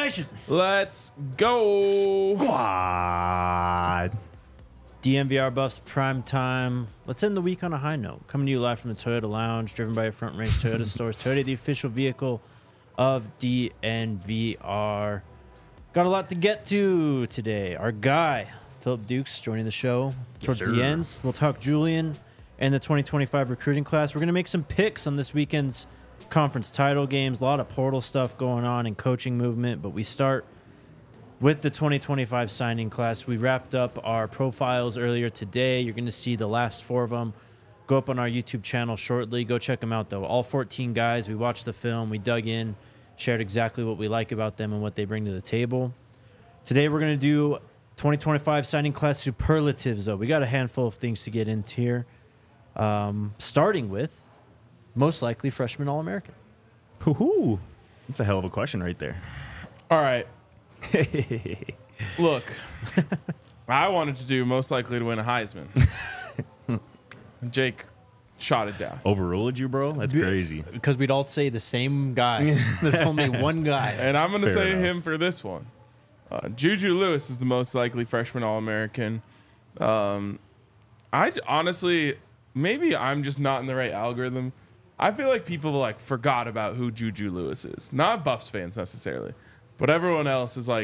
Nation. Let's go. Squad. DMVR Buffs prime time. Let's end the week on a high note. Coming to you live from the Toyota Lounge, driven by your Front Range Toyota stores. Toyota, the official vehicle of DNVR. Got a lot to get to today. Our guy, Philip Dukes, joining the show towards the end. We'll talk Julian and the 2025 recruiting class. We're going to make some picks on this weekend's conference title games. A lot of portal stuff going on and coaching movement, but we start with the 2025 signing class. We wrapped up our profiles earlier today. You're going to see the last 4 of them go up on our YouTube channel shortly. Go check them out, though. All 14 guys. We watched the film. We dug in, shared exactly what we like about them and what they bring to the table. Today, we're going to do 2025 signing class superlatives, though. We got a handful of things to get into here, starting with most likely freshman All-American. Hoo-hoo. That's a hell of a question right there. All right. Look, I wanted to do most likely to win a Heisman. Jake shot it down. Overruled you, bro? That's crazy. Because we'd all say the same guy. There's only one guy. And I'm going to Fair say enough. him for this one. Juju Lewis is the most likely freshman All-American. I honestly, maybe I'm just not in the right algorithm. I feel like people forgot about who Juju Lewis is. Not Buffs fans necessarily, but everyone else is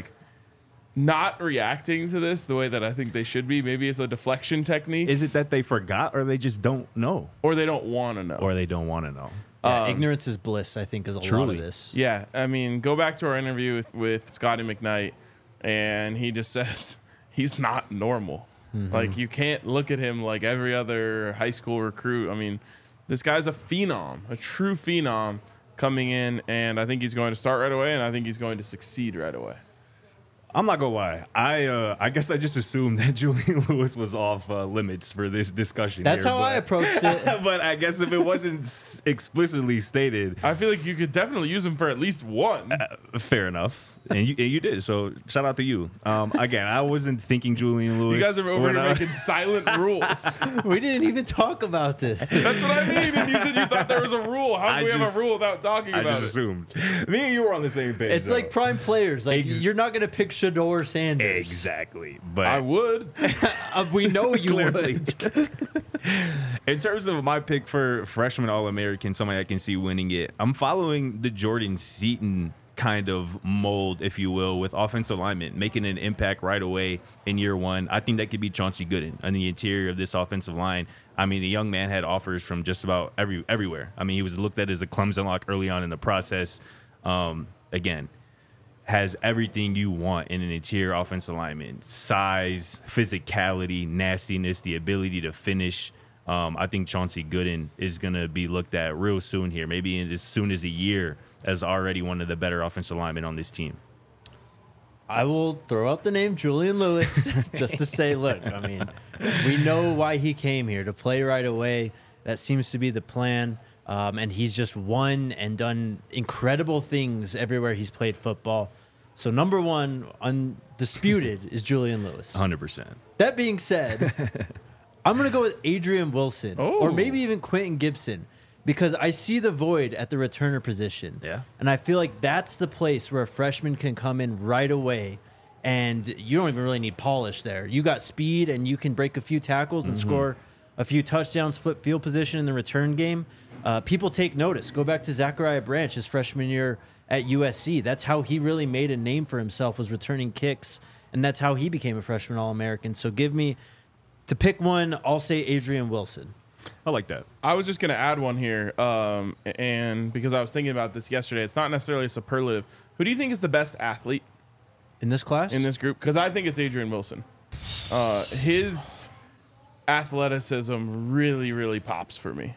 not reacting to this the way that I think they should be. Maybe it's a deflection technique. Is it that they forgot or they just don't know? Or they don't want to know. Or they don't want to know? Yeah, ignorance is bliss, I think, is a lot truly. of this. Yeah, I mean, go back to our interview with Scotty McKnight, and he just says he's not normal. Mm-hmm. You can't look at him like every other high school recruit. I mean, this guy's a phenom, a true phenom coming in, and I think he's going to start right away, and I think he's going to succeed right away. I'm not gonna lie. I guess I just assumed that Julian Lewis was off limits for this discussion. That's here, how I approached it. But I guess if it wasn't explicitly stated, I feel like you could definitely use him for at least one. fair enough, and you did. So shout out to you. Again, I wasn't thinking Julian Lewis. You guys are over when here I- making silent rules. We didn't even talk about this. That's what I mean. And you said you thought there was a rule. How I do we have just- a rule without talking I about just it? assumed. Me and you were on the same page. It's though. like prime players. You're not going to pick Shador Sanders. Exactly, but I would. We know you Clearly. would. in terms of my pick for freshman All-American, somebody I can see winning it, I'm following the Jordan Seaton kind of mold, if you will, with offensive linemen, making an impact right away in year one. I think that could be Chauncey Gooden on the interior of this offensive line. I mean, the young man had offers from just about everywhere. I mean, he was looked at as a Clemson lock early on in the process. Again, has everything you want in an interior offensive lineman: size, physicality, nastiness, the ability to finish. I think Chauncey Gooden is going to be looked at real soon here, maybe as soon as a year, as already one of the better offensive linemen on this team. I will throw out the name Julian Lewis just to say, look, I mean, we know why he came here, to play right away. That seems to be the plan. And he's just won and done incredible things everywhere he's played football. So number one, undisputed, is Julian Lewis. 100%. That being said, I'm going to go with Adrian Wilson or Oh. maybe even Quentin Gibson, because I see the void at the returner position. Yeah. And I feel like that's the place where a freshman can come in right away, and you don't even really need polish there. You got speed, and you can break a few tackles and score a few touchdowns, flip field position in the return game. People take notice. Go back to Zachariah Branch, his freshman year at USC. That's how he really made a name for himself, was returning kicks, and that's how he became a freshman All-American. So give me, to pick one, I'll say Adrian Wilson. I like that. I was just going to add one here, and because I was thinking about this yesterday, it's not necessarily a superlative. Who do you think is the best athlete In this class? in this group? Because I think it's Adrian Wilson. His athleticism really, really pops for me.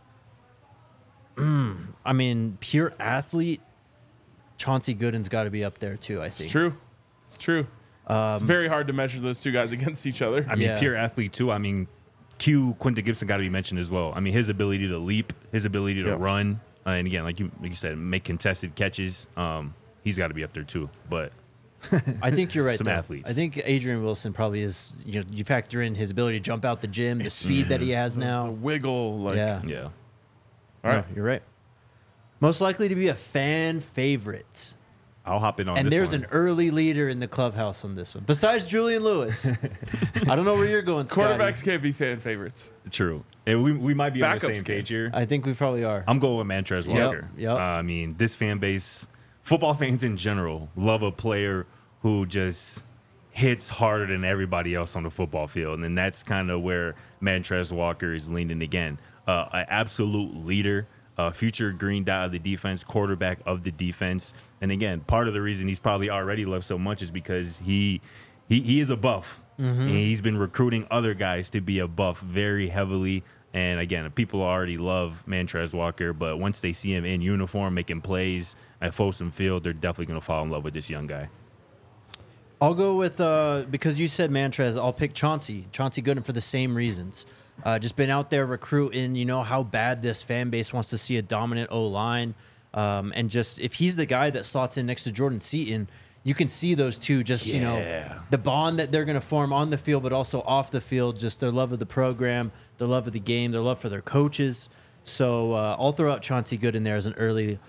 I mean, pure athlete, Chauncey Gooden's got to be up there too, I think. It's true. It's true. It's very hard to measure those two guys against each other. I mean, Yeah. pure athlete, too. I mean, Quentin Gibson got to be mentioned as well. I mean, his ability to leap, his ability to Yep. run, and again, like you said, make contested catches. He's got to be up there, too. But I think you're right. Some though. athletes. I think Adrian Wilson probably is. You factor in his ability to jump out the gym, the speed that he has The now. wiggle. Yeah. yeah. All right. No, you're right. Most likely to be a fan favorite. I'll hop in on And this there's one. an early leader in the clubhouse on this one, besides Julian Lewis. I don't know where you're going, Scotty. Quarterbacks can't be fan favorites. True. And we might be on the Backups same can. page here. I think we probably are. I'm going with Montrez Walker. Yep. I mean, this fan base, football fans in general, love a player who just hits harder than everybody else on the football field. And that's kind of where Montrez Walker is leaning again. An absolute leader, future green dot of the defense, quarterback of the defense. And again, part of the reason he's probably already loved so much is because he is a buff. And he's been recruiting other guys to be a buff very heavily. And again, people already love Montrez Walker, but once they see him in uniform making plays at Folsom Field, they're definitely going to fall in love with this young guy. I'll go with, because you said Montrez, I'll pick Chauncey Gooden for the same reasons. Just been out there recruiting, you know how bad this fan base wants to see a dominant O-line. And just if he's the guy that slots in next to Jordan Seaton, you can see those two just, you know, the bond that they're going to form on the field, but also off the field, just their love of the program, their love of the game, their love for their coaches. So I'll throw out Chauncey Gooden there as an early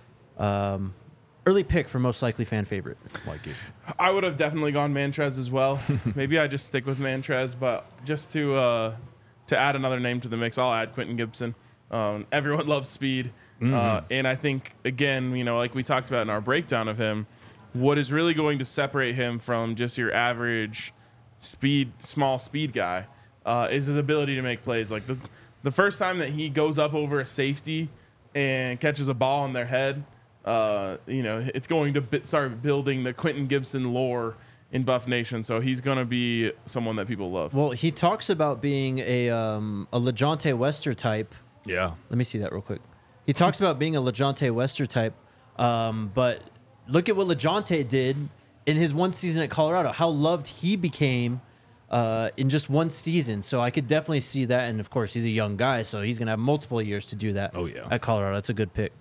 pick for most likely fan favorite. Like it. I would have definitely gone Montrez as well. Maybe I just stick with Montrez, but just to add another name to the mix, I'll add Quentin Gibson. Everyone loves speed, and I think again, you know, like we talked about in our breakdown of him, what is really going to separate him from just your average small speed guy is his ability to make plays. Like the first time that he goes up over a safety and catches a ball on their head, you know, it's going to start building the Quentin Gibson lore in Buff Nation. So he's going to be someone that people love. Well, he talks about being a LeJontay Wester type. Yeah. Let me see that real quick. He talks about being a LeJontay Wester type, but look at what LeJontay did in his one season at Colorado, how loved he became in just one season. So I could definitely see that. And, of course, he's a young guy, so he's going to have multiple years to do that at Colorado. That's a good pick.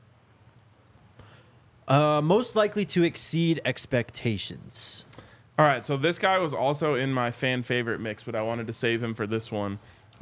Most likely to exceed expectations. All right, so this guy was also in my fan favorite mix, but I wanted to save him for this one.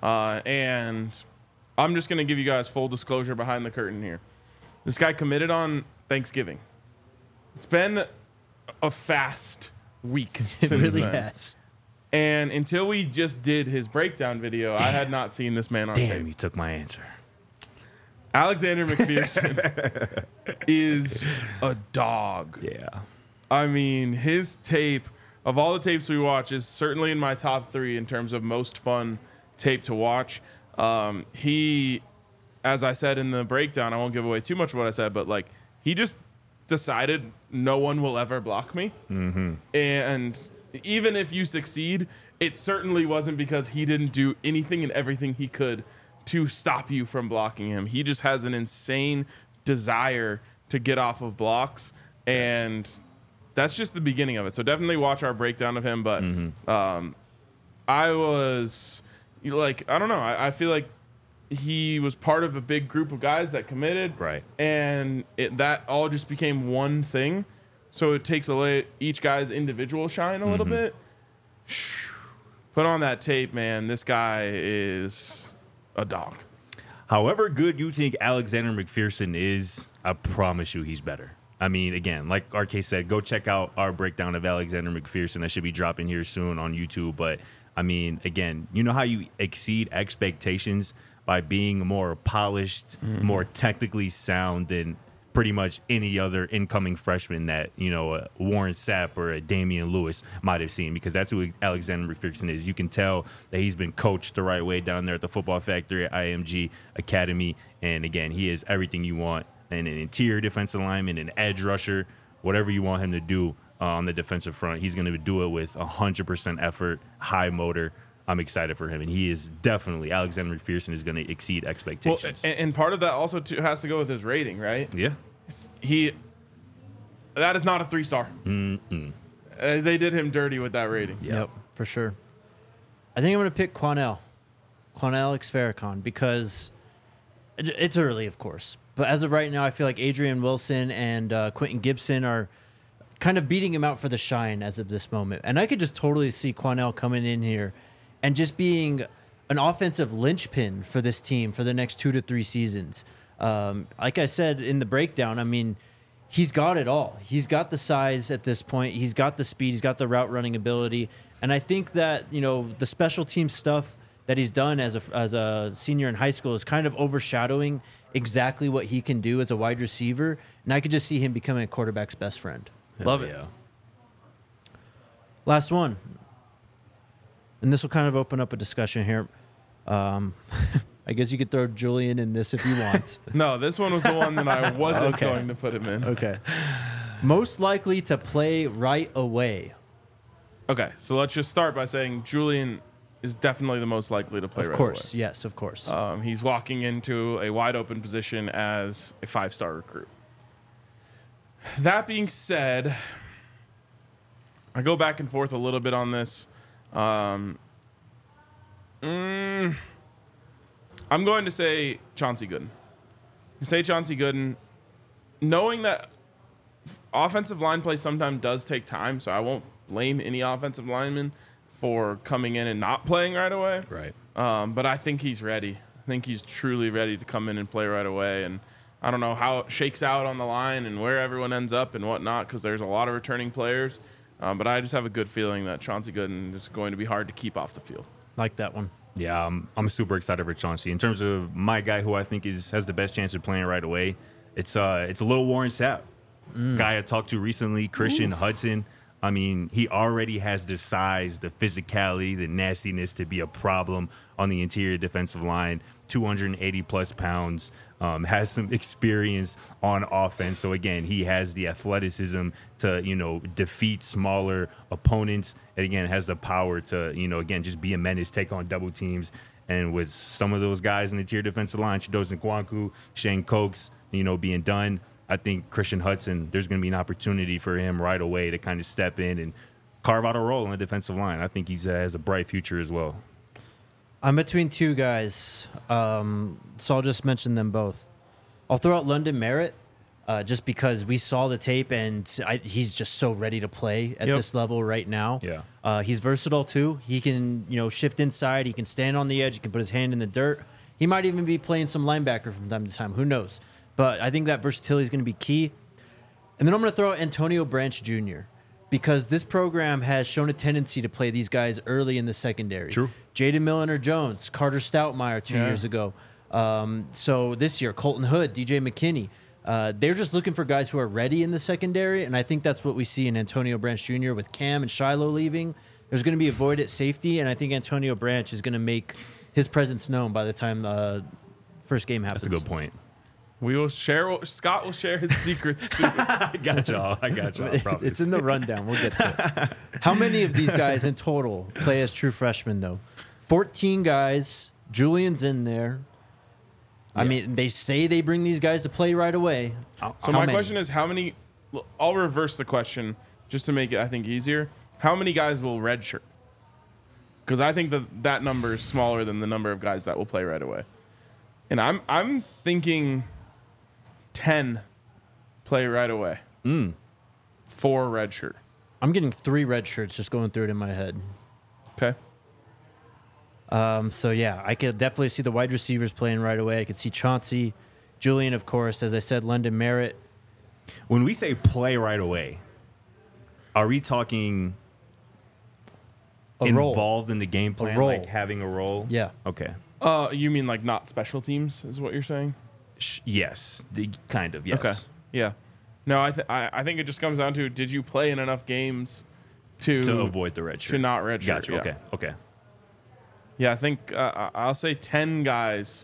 And I'm just going to give you guys full disclosure behind the curtain here. This guy committed on Thanksgiving. It's been a fast week since It really then. has. And until we just did his breakdown video, I had not seen this man on Damn, tape. you took my answer. Alexander McPherson is a dog. Yeah. I mean, his tape, of all the tapes we watch, is certainly in my top 3 in terms of most fun tape to watch. He, as I said in the breakdown, I won't give away too much of what I said, but like he just decided no one will ever block me. Mm-hmm. And even if you succeed, it certainly wasn't because he didn't do anything and everything he could to stop you from blocking him. He just has an insane desire to get off of blocks, and that's just the beginning of it. So definitely watch our breakdown of him. But I was like, I don't know. I feel like he was part of a big group of guys that committed, Right. And that all just became one thing. So it takes away each guy's individual shine a little bit. Put on that tape, man. This guy is a dog. However good you think Alexander McPherson is, I promise you he's better. I mean, again, like RK said, go check out our breakdown of Alexander McPherson. That should be dropping here soon on YouTube. But, I mean, again, you know how you exceed expectations by being more polished, more technically sound than pretty much any other incoming freshman that, you know, Warren Sapp or a Damian Lewis might have seen, because that's who Alexander McPherson is. You can tell that he's been coached the right way down there at the Football Factory at IMG Academy. And again, he is everything you want in an interior defensive lineman, an edge rusher, whatever you want him to do on the defensive front. He's going to do it with 100% effort, high motor. I'm excited for him, and he is definitely, Alexander McPherson is going to exceed expectations. Well, and part of that also has to go with his rating, right? Yeah. That is not a 3-star. They did him dirty with that rating. Yep, for sure. I think I'm going to pick Quanell X Farrakhan, because it's early, of course. But as of right now, I feel like Adrian Wilson and Quentin Gibson are kind of beating him out for the shine as of this moment. And I could just totally see Quanell coming in here and just being an offensive linchpin for this team for the next 2 to 3 seasons. Like I said in the breakdown, I mean, he's got it all. He's got the size at this point. He's got the speed. He's got the route running ability. And I think that, the special team stuff that he's done as a senior in high school is kind of overshadowing exactly what he can do as a wide receiver. And I could just see him becoming a quarterback's best friend. Love it. Yeah. Last one. And this will kind of open up a discussion here. I guess you could throw Julian in this if you want. No, this one was the one that I wasn't Okay. going to put him in. Okay. Most likely to play right away. Okay, so let's just start by saying Julian is definitely the most likely to play Of right course. Yes, of course. away. He's walking into a wide open position as a 5-star recruit. That being said, I go back and forth a little bit on this. I'm going to say Chauncey Gooden. Knowing that offensive line play sometimes does take time, so I won't blame any offensive lineman for coming in and not playing right away. Right. But I think he's ready. I think he's truly ready to come in and play right away. And I don't know how it shakes out on the line and where everyone ends up and whatnot, because there's a lot of returning players. But I just have a good feeling that Chauncey Gooden is going to be hard to keep off the field. Like that one. Yeah, I'm super excited for Chauncey. In terms of my guy who I think has the best chance of playing right away, it's Lil Warren Sapp. Guy I talked to recently, Christian Hudson. I mean, he already has the size, the physicality, the nastiness to be a problem on the interior defensive line. 280 plus pounds, has some experience on offense. So again, he has the athleticism to, defeat smaller opponents. And again, has the power to, again, just be a menace, take on double teams. And with some of those guys in the interior defensive line, Chidozie Nwankwo, Shane Cokes, being done, I think Christian Hudson, there's going to be an opportunity for him right away to kind of step in and carve out a role on the defensive line. I think he has a bright future as well. I'm between two guys, so I'll just mention them both. I'll throw out London Merritt just because we saw the tape and he's just so ready to play at this level right now. Yeah. He's versatile too. He can, shift inside. He can stand on the edge. He can put his hand in the dirt. He might even be playing some linebacker from time to time. Who knows? But I think that versatility is going to be key. And then I'm going to throw out Antonio Branch Jr. because this program has shown a tendency to play these guys early in the secondary. True. Jaden Milliner-Jones, Carter Stoutmeyer 2 years ago. So this year, Colton Hood, DJ McKinney. They're just looking for guys who are ready in the secondary, and I think that's what we see in Antonio Branch Jr. with Cam and Shiloh leaving. There's going to be a void at safety, and I think Antonio Branch is going to make his presence known by the time first game happens. That's a good point. Scott will share his secrets soon. I got y'all. I promise. It's in the rundown. We'll get to it. How many of these guys in total play as true freshmen, though? 14 guys. Julian's in there. I mean, they say they bring these guys to play right away. So my question is, how many? I'll reverse the question just to make it, I think, easier. How many guys will redshirt? Because I think that number is smaller than the number of guys that will play right away. And I'm thinking 10 play right away. 4 redshirt. I'm getting 3 red shirts just going through it in my head. Okay. So, yeah, I could definitely see the wide receivers playing right away. I could see Chauncey, Julian, of course, as I said, London Merritt. When we say play right away, are we talking involved in the game plan, role. like having a role? Yeah. Okay. You mean like not special teams is what you're saying? Yes. Kind of, yes. Okay. Yeah. No, I think it just comes down to, did you play in enough games to avoid the red shirt? To not redshirt. Gotcha. Yeah. Okay. Yeah, I think I'll say 10 guys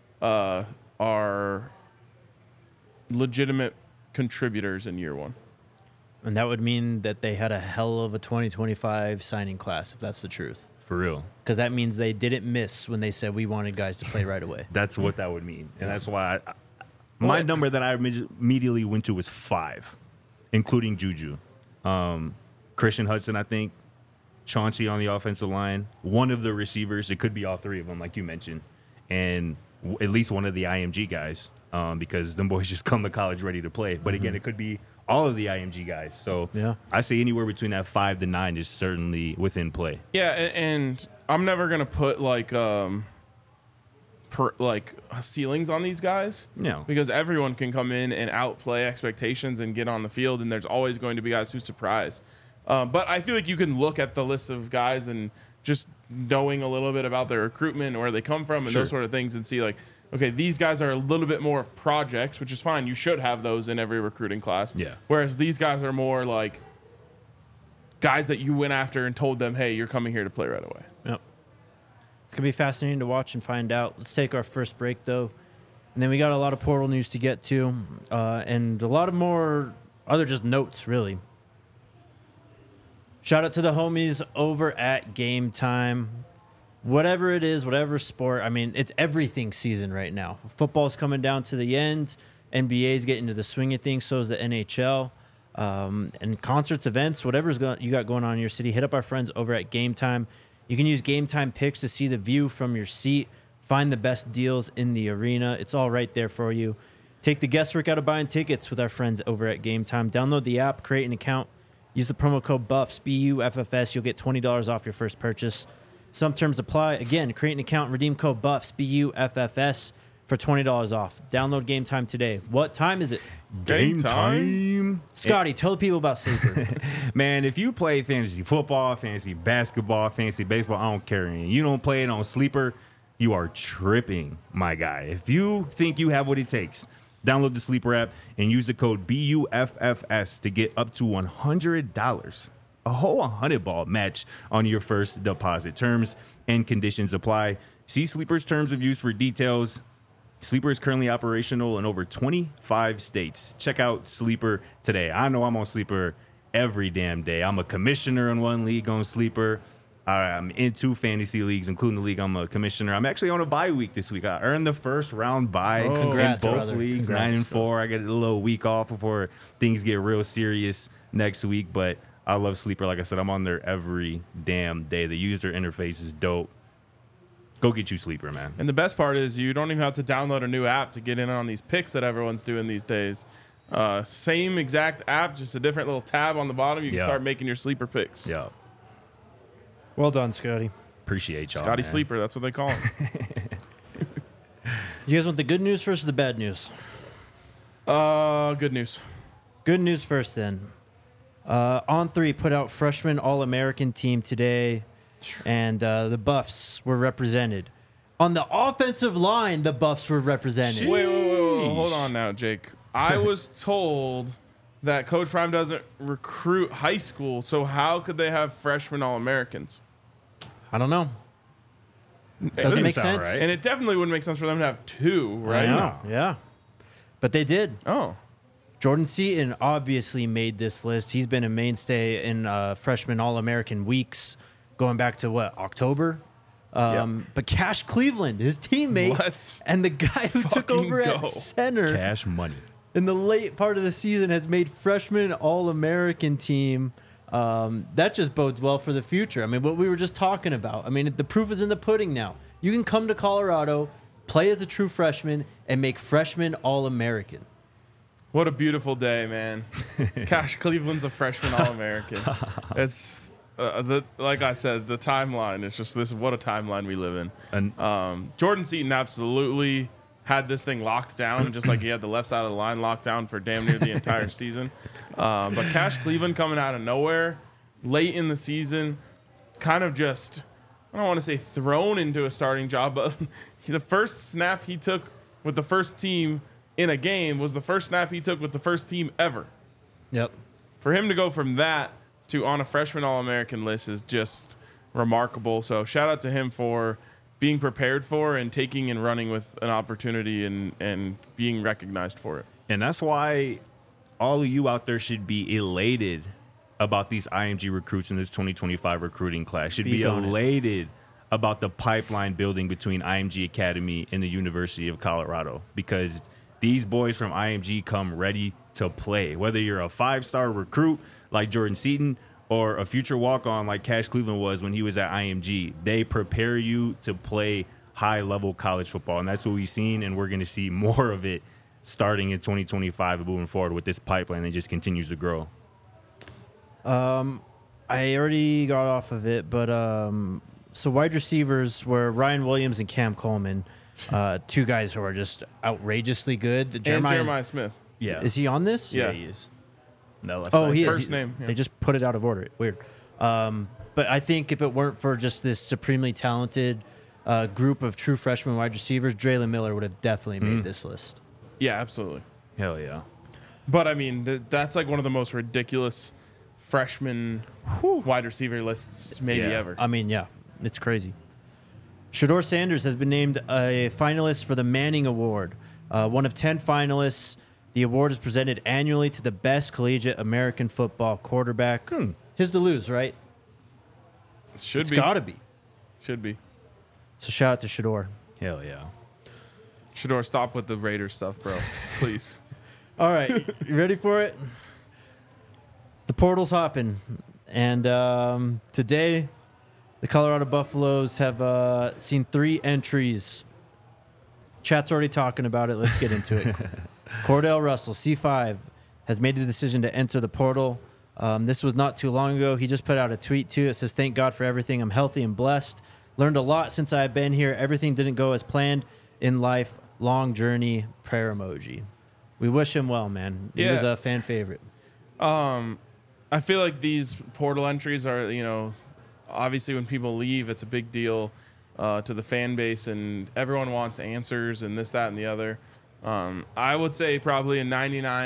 are legitimate contributors in year one. And that would mean that they had a hell of a 2025 signing class, if that's the truth. For real. Because that means they didn't miss when they said we wanted guys to play right away. That's what that would mean. And that's why my number that I immediately went to was 5, including Juju. Christian Hudson, I think. Chauncey on the offensive line. One of the receivers. It could be all 3 of them, like you mentioned. And at least one of the IMG guys, because them boys just come to college ready to play. But again, it could be all of the IMG guys. So yeah. I say anywhere between that 5 to 9 is certainly within play. Yeah, and I'm never going to put like ceilings on these guys. No. Because everyone can come in and outplay expectations and get on the field, and there's always going to be guys who surprise. But I feel like you can look at the list of guys and just knowing a little bit about their recruitment and where they come from and Sure. those sort of things and see like, okay, these guys are a little bit more of projects, which is fine. You should have those in every recruiting class. Yeah. Whereas these guys are more like guys that you went after and told them, hey, you're coming here to play right away. Yep. It's going to be fascinating to watch and find out. Let's take our first break, though. And then we got a lot of portal news to get to and a lot of more other just notes, really. Shout out to the homies over at Game Time. Whatever it is, whatever sport, I mean, it's everything season right now. Football's coming down to the end. NBA's getting to the swing of things. So is the NHL. And concerts, events, whatever's you got going on in your city, hit up our friends over at Game Time. You can use Game Time Picks to see the view from your seat, find the best deals in the arena. It's all right there for you. Take the guesswork out of buying tickets with our friends over at Game Time. Download the app, create an account, use the promo code BUFFS, BUFFS. You'll get $20 off your first purchase. Some terms apply. Again, create an account, redeem code BUFFS, BUFFS, for $20 off. Download Game Time today. What time is it? Game time. Scotty, tell the people about Sleeper. Man, if you play fantasy football, fantasy basketball, fantasy baseball, I don't care. And you don't play it on Sleeper, you are tripping, my guy. If you think you have what it takes, download the Sleeper app and use the code BUFFS to get up to $100. A whole 100-ball match on your first deposit. Terms and conditions apply. See Sleeper's terms of use for details. Sleeper is currently operational in over 25 states. Check out Sleeper today. I know I'm on Sleeper every damn day. I'm a commissioner in one league on Sleeper. I'm in 2 fantasy leagues, including the league I'm a commissioner. I'm actually on a bye week this week. I earned the first round bye in Congrats, both brother. leagues, Congrats. 9-4. I get a little week off before things get real serious next week. But I love Sleeper. Like I said, I'm on there every damn day. The user interface is dope. Go get you Sleeper, man. And the best part is you don't even have to download a new app to get in on these picks that everyone's doing these days. Same exact app, just a different little tab on the bottom. You can Yeah. start making your sleeper picks. Yeah. Well done, Scotty. Appreciate y'all. Scotty man. Sleeper, that's what they call him. You guys want the good news first or the bad news? Good news. Good news first, then. On3 put out freshman All-American team today, and the Buffs were represented. On the offensive line, the Buffs were represented. Wait. Hold on now, Jake. I was told that Coach Prime doesn't recruit high school, so how could they have freshman All-Americans? I don't know. Doesn't doesn't make sound sense. right. And it definitely wouldn't make sense for them to have 2, I right? know, yeah. But they did. Oh. Jordan Seaton obviously made this list. He's been a mainstay in freshman All-American weeks, going back to, October? But Cash Cleveland, his teammate, Let's and the guy who took fucking over at go. center Cash money. in the late part of the season has made freshman All-American team. That just bodes well for the future. I mean, what we were just talking about. I mean, the proof is in the pudding now. You can come to Colorado, play as a true freshman, and make freshman All-American. What a beautiful day, man. Cash Cleveland's a freshman All-American. It's, like I said, the timeline. It's just this. What a timeline we live in. And Jordan Seaton absolutely had this thing locked down, just like he had the left side of the line locked down for damn near the entire season. But Cash Cleveland coming out of nowhere late in the season, kind of just, I don't want to say thrown into a starting job, but the first snap he took with the first team in a game was the first snap he took with the first team ever. Yep. For him to go from that to on a freshman All-American list is just remarkable. So shout out to him for being prepared for and taking and running with an opportunity and being recognized for it. And that's why all of you out there should be elated about these IMG recruits in this 2025 recruiting class. Should be Speak on it. elated about the pipeline building between IMG Academy and the University of Colorado, because these boys from IMG come ready to play. Whether you're a 5-star recruit like Jordan Seaton or a future walk-on like Cash Cleveland was when he was at IMG, they prepare you to play high-level college football. And that's what we've seen, and we're going to see more of it starting in 2025 and moving forward with this pipeline that just continues to grow. I already got off of it, but so wide receivers were Ryan Williams and Cam Coleman. Two guys who are just outrageously good. And Jeremiah Smith. Yeah. Is he on this? Yeah. He is. No, left Oh, side. he is. First name, yeah. They just put it out of order. Weird. But I think if it weren't for just this supremely talented group of true freshman wide receivers, Draylon Miller would have definitely made this list. Yeah, absolutely. Hell yeah. But I mean, that's like one of the most ridiculous freshman wide receiver lists maybe Yeah. ever. I mean, yeah, it's crazy. Shador Sanders has been named a finalist for the Manning Award. One of 10 finalists. The award is presented annually to the best collegiate American football quarterback. His to lose, right? Should It's be. got to be. Should be. So shout out to Shador. Hell yeah. Shador, stop with the Raiders stuff, bro. Please. All right, you ready for it? The portal's hopping, and today the Colorado Buffaloes have seen 3 entries. Chat's already talking about it. Let's get into it. Cordell Russell, C5, has made the decision to enter the portal. This was not too long ago. He just put out a tweet, too. It says, "Thank God for everything. I'm healthy and blessed. Learned a lot since I've been here. Everything didn't go as planned in life. Long journey." Prayer emoji. We wish him well, man. He was Yeah. a fan favorite. I feel like these portal entries are, obviously when people leave, it's a big deal to the fan base, and everyone wants answers and this, that, and the other. I would say probably in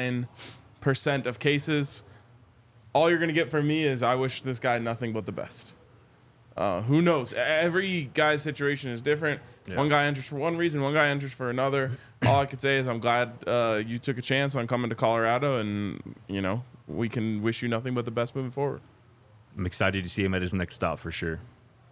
99% of cases, all you're going to get from me is I wish this guy nothing but the best. Who knows? Every guy's situation is different. Yeah. One guy enters for one reason, one guy enters for another. All I could say is I'm glad you took a chance on coming to Colorado, and, we can wish you nothing but the best moving forward. I'm excited to see him at his next stop for sure.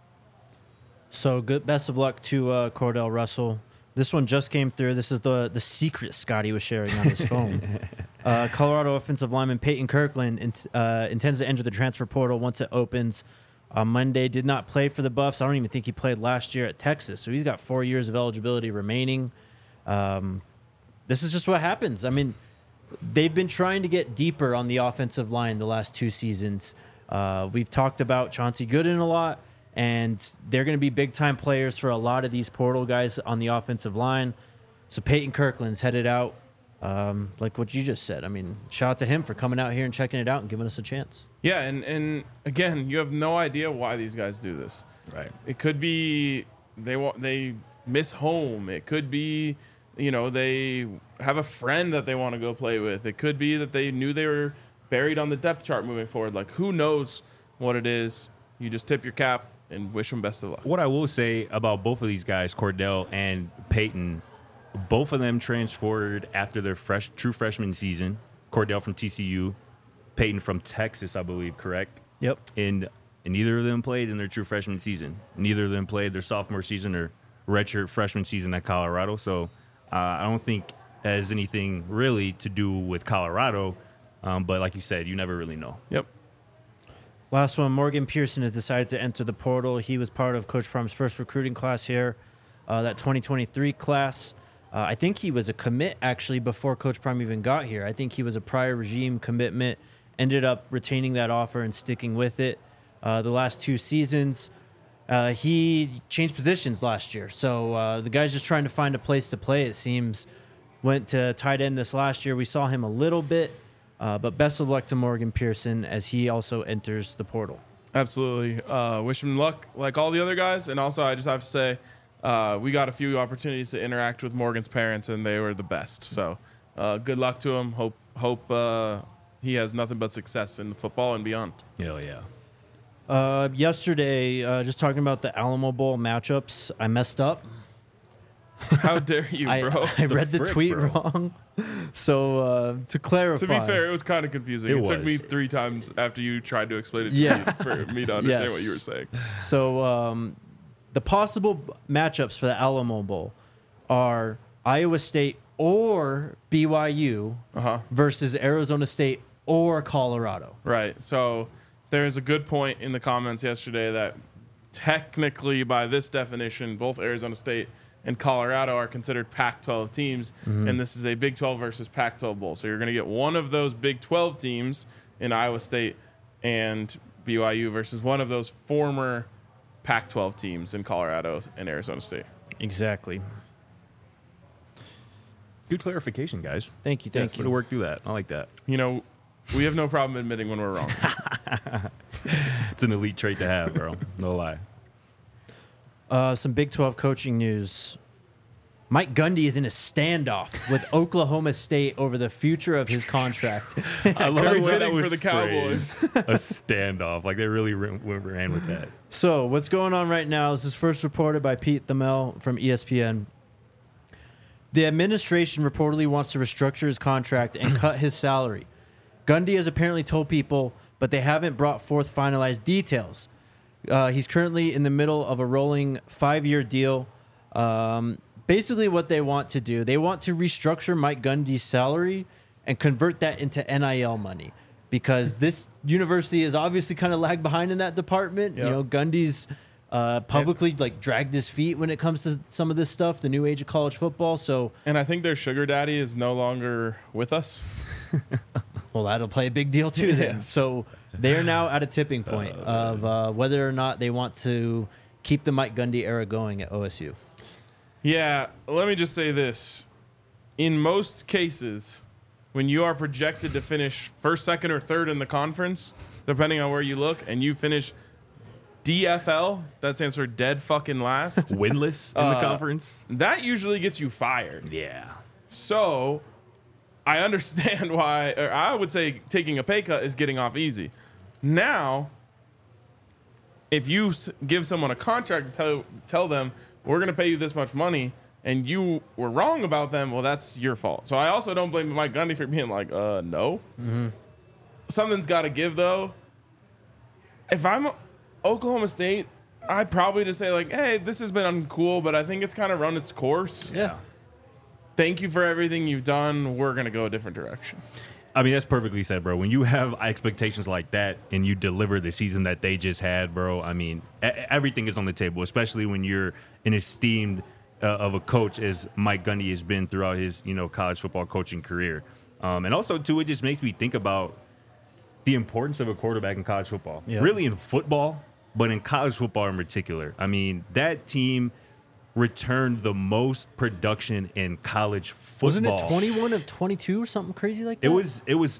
So good. Best of luck to Cordell Russell. This one just came through. This is the secret Scotty was sharing on his phone. Colorado offensive lineman Peyton Kirkland intends to enter the transfer portal once it opens on Monday. Did not play for the Buffs. I don't even think he played last year at Texas. So he's got 4 years of eligibility remaining. This is just what happens. I mean, they've been trying to get deeper on the offensive line the last 2 seasons. We've talked about Chauncey Gooden a lot, and they're going to be big-time players for a lot of these portal guys on the offensive line. So Peyton Kirkland's headed out, like what you just said. I mean, shout out to him for coming out here and checking it out and giving us a chance. Yeah, and again, you have no idea why these guys do this. Right. It could be they miss home. It could be, they have a friend that they want to go play with. It could be that they knew they were buried on the depth chart moving forward. Like, who knows what it is? You just tip your cap and wish them best of luck. What I will say about both of these guys, Cordell and Peyton, both of them transferred after their true freshman season. Cordell from TCU, Peyton from Texas, I believe, correct? Yep. And neither of them played in their true freshman season. Neither of them played their sophomore season or redshirt freshman season at Colorado. So I don't think it has anything really to do with Colorado. But like you said, you never really know. Yep. Last one, Morgan Pearson has decided to enter the portal. He was part of Coach Prom's first recruiting class here, that 2023 class. I think he was a commit, actually, before Coach Prom even got here. I think he was a prior regime commitment, ended up retaining that offer and sticking with it the last 2 seasons. He changed positions last year, so the guy's just trying to find a place to play, it seems. Went to tight end this last year. We saw him a little bit. But best of luck to Morgan Pearson as he also enters the portal. Absolutely. Wish him luck like all the other guys. And also, I just have to say, we got a few opportunities to interact with Morgan's parents, and they were the best. So good luck to him. Hope he has nothing but success in football and beyond. Hell yeah. Yesterday, just talking about the Alamo Bowl matchups, I messed up. How dare you, bro? I read the frick, tweet bro? wrong. So to clarify. To be fair, it was kind of confusing. It It took me was. 3 times after you tried to explain it to Yeah. me for me to understand Yes. what you were saying. So the possible matchups for the Alamo Bowl are Iowa State or BYU versus Arizona State or Colorado. Right. So there's a good point in the comments yesterday that technically, by this definition, both Arizona State and Colorado are considered Pac-12 teams, and this is a Big 12 versus Pac-12 bowl. So you're going to get one of those Big 12 teams in Iowa State and BYU versus one of those former Pac-12 teams in Colorado and Arizona State. Exactly. Good clarification, guys. Thank you. Way Thank to you. work through that. I like that. You know, we have no problem admitting when we're wrong. It's an elite trait to have, bro. No lie. Some Big 12 coaching news. Mike Gundy is in a standoff with Oklahoma State over the future of his contract. I love Very the way that fitting was for the Cowboys. phrased. A standoff. Like, they really ran with that. So, what's going on right now? This is first reported by Pete Thamel from ESPN. The administration reportedly wants to restructure his contract and cut his salary. Gundy has apparently told people, but they haven't brought forth finalized details. He's currently in the middle of a rolling 5-year deal. Basically, what they want to do, they want to restructure Mike Gundy's salary and convert that into NIL money, because this university is obviously kind of lagged behind in that department. Yep. You know, Gundy's publicly like dragged his feet when it comes to some of this stuff, the new age of college football. So, And I think their sugar daddy is no longer with us. well, that'll play a big deal too then. Yes. So they're now at a tipping point of whether or not they want to keep the Mike Gundy era going at OSU. Yeah, let me just say this. In most cases, when you are projected to finish first, second, or third in the conference, depending on where you look, and you finish DFL, that stands for dead fucking last, Winless in the conference. that usually gets you fired. Yeah. So I understand why, or I would say taking a pay cut is getting off easy. Now, if you give someone a contract and tell them, we're going to pay you this much money, and you were wrong about them, well, that's your fault. So I also don't blame Mike Gundy for being like, no. Mm-hmm. Something's got to give, though. If I'm Oklahoma State, I'd probably just say, like, hey, this has been uncool, but I think it's kind of run its course. Yeah. Thank you for everything you've done. We're going to go a different direction. I mean, that's perfectly said, bro. When you have expectations like that and you deliver the season that they just had, bro, I mean, everything is on the table, especially when you're an esteemed of a coach as Mike Gundy has been throughout his, college football coaching career. And also, too, it just makes me think about the importance of a quarterback in college football. Yeah. Really in football, but in college football in particular. I mean, that team returned the most production in college football. Wasn't it 21 of 22 or something crazy like that? It was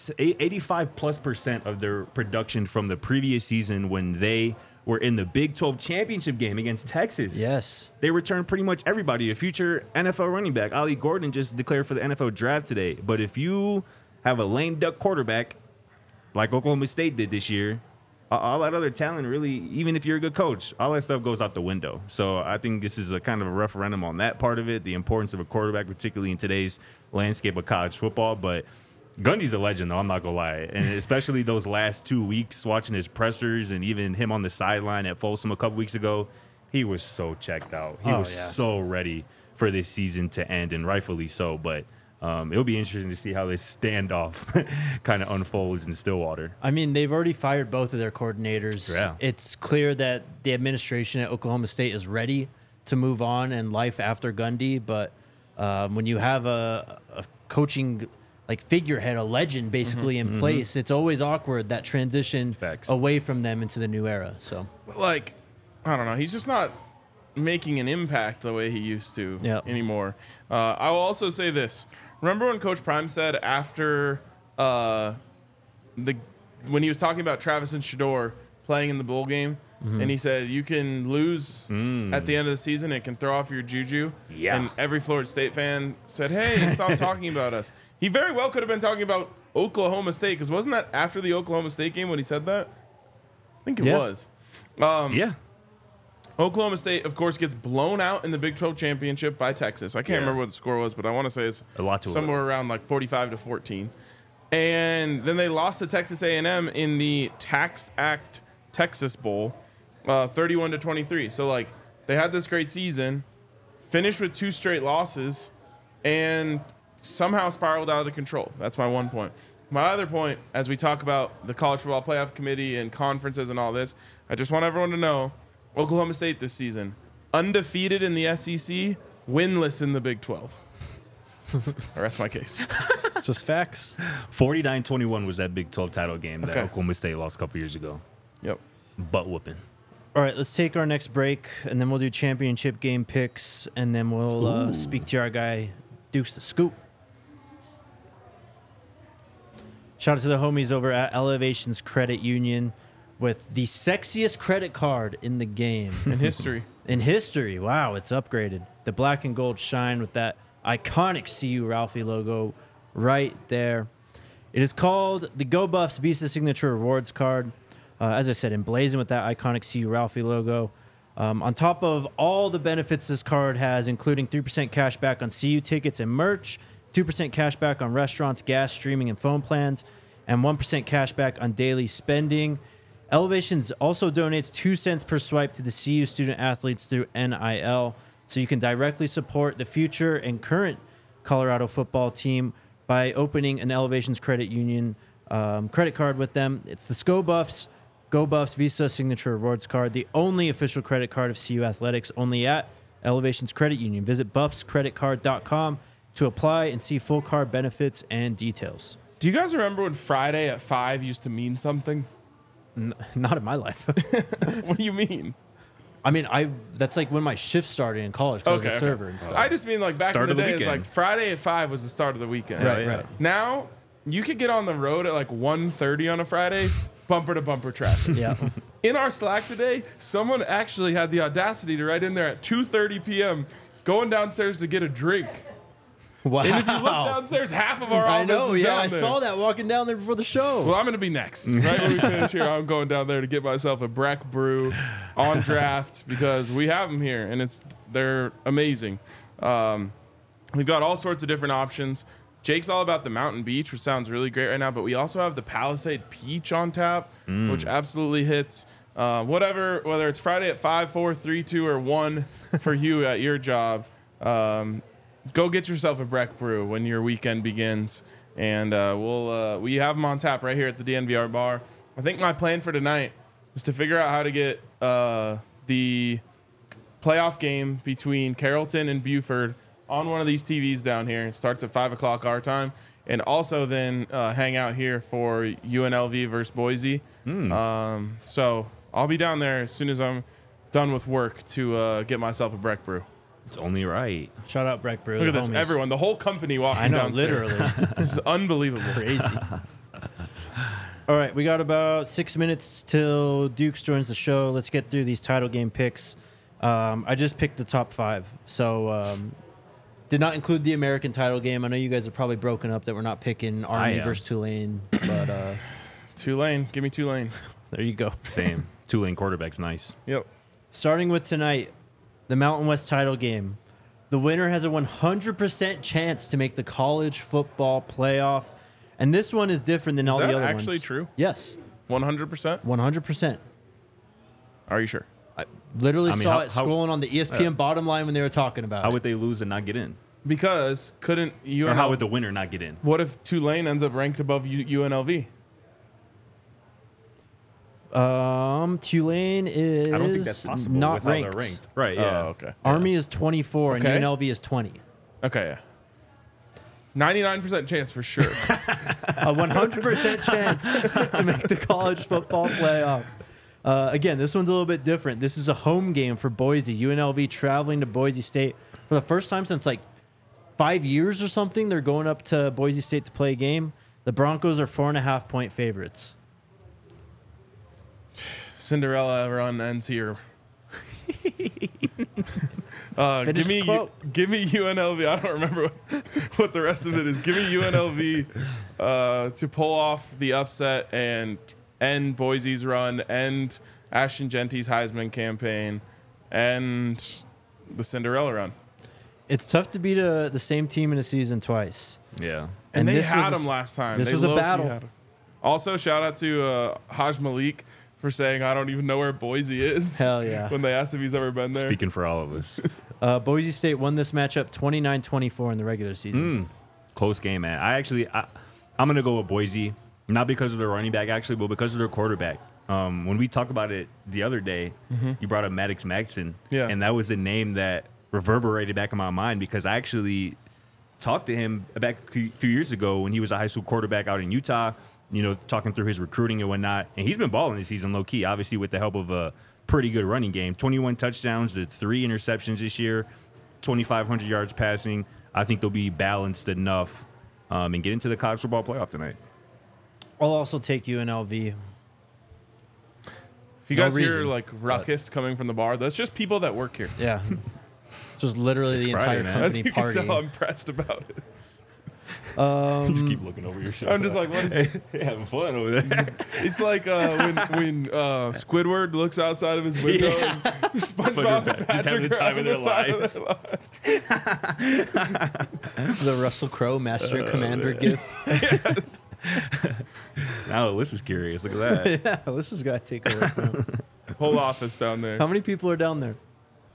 85+% of their production from the previous season when they were in the Big 12 championship game against Texas. Yes. They returned pretty much everybody. A future NFL running back, Ollie Gordon, just declared for the NFL draft today. But if you have a lame duck quarterback like Oklahoma State did this year, all that other talent, really, even if you're a good coach, all that stuff goes out the window. So I think this is a kind of a referendum on that part of it, the importance of a quarterback, particularly in today's landscape of college football. But Gundy's a legend, though, I'm not going to lie. And especially those last 2 weeks, watching his pressers and even him on the sideline at Folsom a couple weeks ago, he was so checked out. He was so ready for this season to end, and rightfully so. But it'll be interesting to see how this standoff kind of unfolds in Stillwater. I mean, they've already fired both of their coordinators. Yeah. It's clear that the administration at Oklahoma State is ready to move on and life after Gundy. But when you have a coaching like figurehead, a legend basically in place, it's always awkward, that transition away from them into the new era. So, Like, I don't know. He's just not making an impact the way he used to anymore. I will also say this. Remember when Coach Prime said after when he was talking about Travis and Shedeur playing in the bowl game, and he said you can lose at the end of the season, it can throw off your juju. Yeah. And every Florida State fan said, "Hey, stop talking about us." He very well could have been talking about Oklahoma State, because wasn't that after the Oklahoma State game when he said that? I think it was. Yeah. Oklahoma State, of course, gets blown out in the Big 12 championship by Texas. I can't remember what the score was, but I want to say it's somewhere around like 45-14. And then they lost to Texas A&M in the Tax Act Texas Bowl, 31-23. So like they had this great season, finished with 2 straight losses, and somehow spiraled out of control. That's my one point. My other point, as we talk about the College Football Playoff Committee and conferences and all this, I just want everyone to know Oklahoma State this season, undefeated in the SEC, winless in the Big 12. I rest my case. just facts. 49-21 was that Big 12 title game that Okay. Oklahoma State lost a couple years ago. Yep. Butt whooping. All right, let's take our next break, and then we'll do championship game picks, and then we'll speak to our guy, Dukes the scoop. Shout out to the homies over at Elevations Credit Union with the sexiest credit card in the game. In history. In history, wow, it's upgraded. The black and gold shine with that iconic CU Ralphie logo right there. It is called the Go Buffs Visa Signature Rewards Card. As I said, emblazoned with that iconic CU Ralphie logo. On top of all the benefits this card has, including 3% cash back on CU tickets and merch, 2% cash back on restaurants, gas, streaming, and phone plans, and 1% cash back on daily spending. Elevations also donates 2 cents per swipe to the CU student athletes through NIL, so you can directly support the future and current Colorado football team by opening an Elevations Credit Union credit card with them. It's the Go Buffs Visa Signature Rewards Card, the only official credit card of CU Athletics, only at Elevations Credit Union. Visit buffscreditcard.com to apply and see full card benefits and details. Do you guys remember when Friday at 5 used to mean something? Not in my life. What do you mean? I mean, that's like when my shift started in college. 'Cause I was a server and stuff. I just mean like back Start in the of the day, it's weekend. like Friday at 5 was the start of the weekend. Right. Now, you could get on the road at like 1:30 on a Friday, bumper to bumper traffic. Yeah. In our Slack today, someone actually had the audacity to write in there at 2:30 p.m. going downstairs to get a drink. Wow. And if you look downstairs, half of our I office know, is yeah. down I there. saw that walking down there before the show. Well, I'm going to be next. Right when we finish here, I'm going down there to get myself a Breck Brew on draft because we have them here, and they're amazing. We've got all sorts of different options. Jake's all about the Mountain Beach, which sounds really great right now, but we also have the Palisade Peach on tap, which absolutely hits. Whether it's Friday at 5, 4, 3, 2, or 1 for you at your job, go get yourself a Breck Brew when your weekend begins. And we have them on tap right here at the DNVR bar. I think my plan for tonight is to figure out how to get the playoff game between Carrollton and Buford on one of these TVs down here. It starts at 5 o'clock our time. And also then hang out here for UNLV versus Boise. So I'll be down there as soon as I'm done with work to get myself a Breck Brew. It's only right. Shout out Breck Brew. Look at the this. homies. Everyone, the whole company walking I know, downstairs. literally. This is unbelievable. Crazy. All right, we got about 6 minutes till Dukes joins the show. Let's get through these title game picks. I just picked the top 5. So did not include the American title game. I know you guys are probably broken up that we're not picking Army versus Tulane. But Tulane. Give me Tulane. there you go. Same. Tulane quarterback's nice. Yep. Starting with tonight, the Mountain West title game. The winner has a 100% chance to make the college football playoff. And this one is different than all the that other actually ones. true? Yes, 100%? 100%. Are you sure? I literally I mean, saw how- it scrolling on the ESPN bottom line when they were talking about How it. would they lose and not get in? Because couldn't UNLV... Or how would the winner not get in? What if Tulane ends up ranked above UNLV? Tulane is I don't think that's possible not with how ranked. they're ranked. Right, yeah. Oh, okay. Army is 24 Okay. and UNLV is 20. Okay, yeah. 99% chance for sure. A 100% chance to make the college football playoff. Again, this one's a little bit different. This is a home game for Boise. UNLV traveling to Boise State for the first time since like 5 years or something. They're going up to Boise State to play a game. The Broncos are 4.5-point favorites. Cinderella run ends here. Finish the quote. Give me UNLV. I don't remember what the rest of it is. Give me UNLV to pull off the upset and end Boise's run, end Ashton Genty's Heisman campaign, and the Cinderella run. It's tough to beat the same team in a season twice. Yeah. And they this had was them last time. this They was a low-key battle. had 'em. Also, shout out to Haj Malik for saying, I don't even know where Boise is. Hell yeah. When they asked if he's ever been there. Speaking for all of us. Boise State won this matchup 29-24 in the regular season. Close game, man. I'm going to go with Boise, not because of their running back, actually, but because of their quarterback. When we talked about it the other day, you brought up Maddox Maxson. Yeah. And that was a name that reverberated back in my mind because I actually talked to him back a few years ago when he was a high school quarterback out in Utah, talking through his recruiting and whatnot. And he's been balling this season low key, obviously with the help of a pretty good running game. 21 touchdowns to 3 interceptions this year, 2,500 yards passing. I think they'll be balanced enough and get into the college football playoff tonight. I'll also take UNLV. If you No guys hear reason, like ruckus coming from the bar, that's just people that work here. Yeah. Just literally the Friday, entire man. As company you can party. tell, I'm pressed about it. Just keep looking over your shoulder. I'm just like, what is Hey, having fun over there. It's like when Squidward looks outside of his window and SpongeBob and Just having Patrick the time are of their having the lives. lives. The Russell Crowe Master and Commander gift. Yes. Now Alyssa's curious. Look at that. Yeah, let's just gotta take a look. Now. Whole office down there. How many people are down there?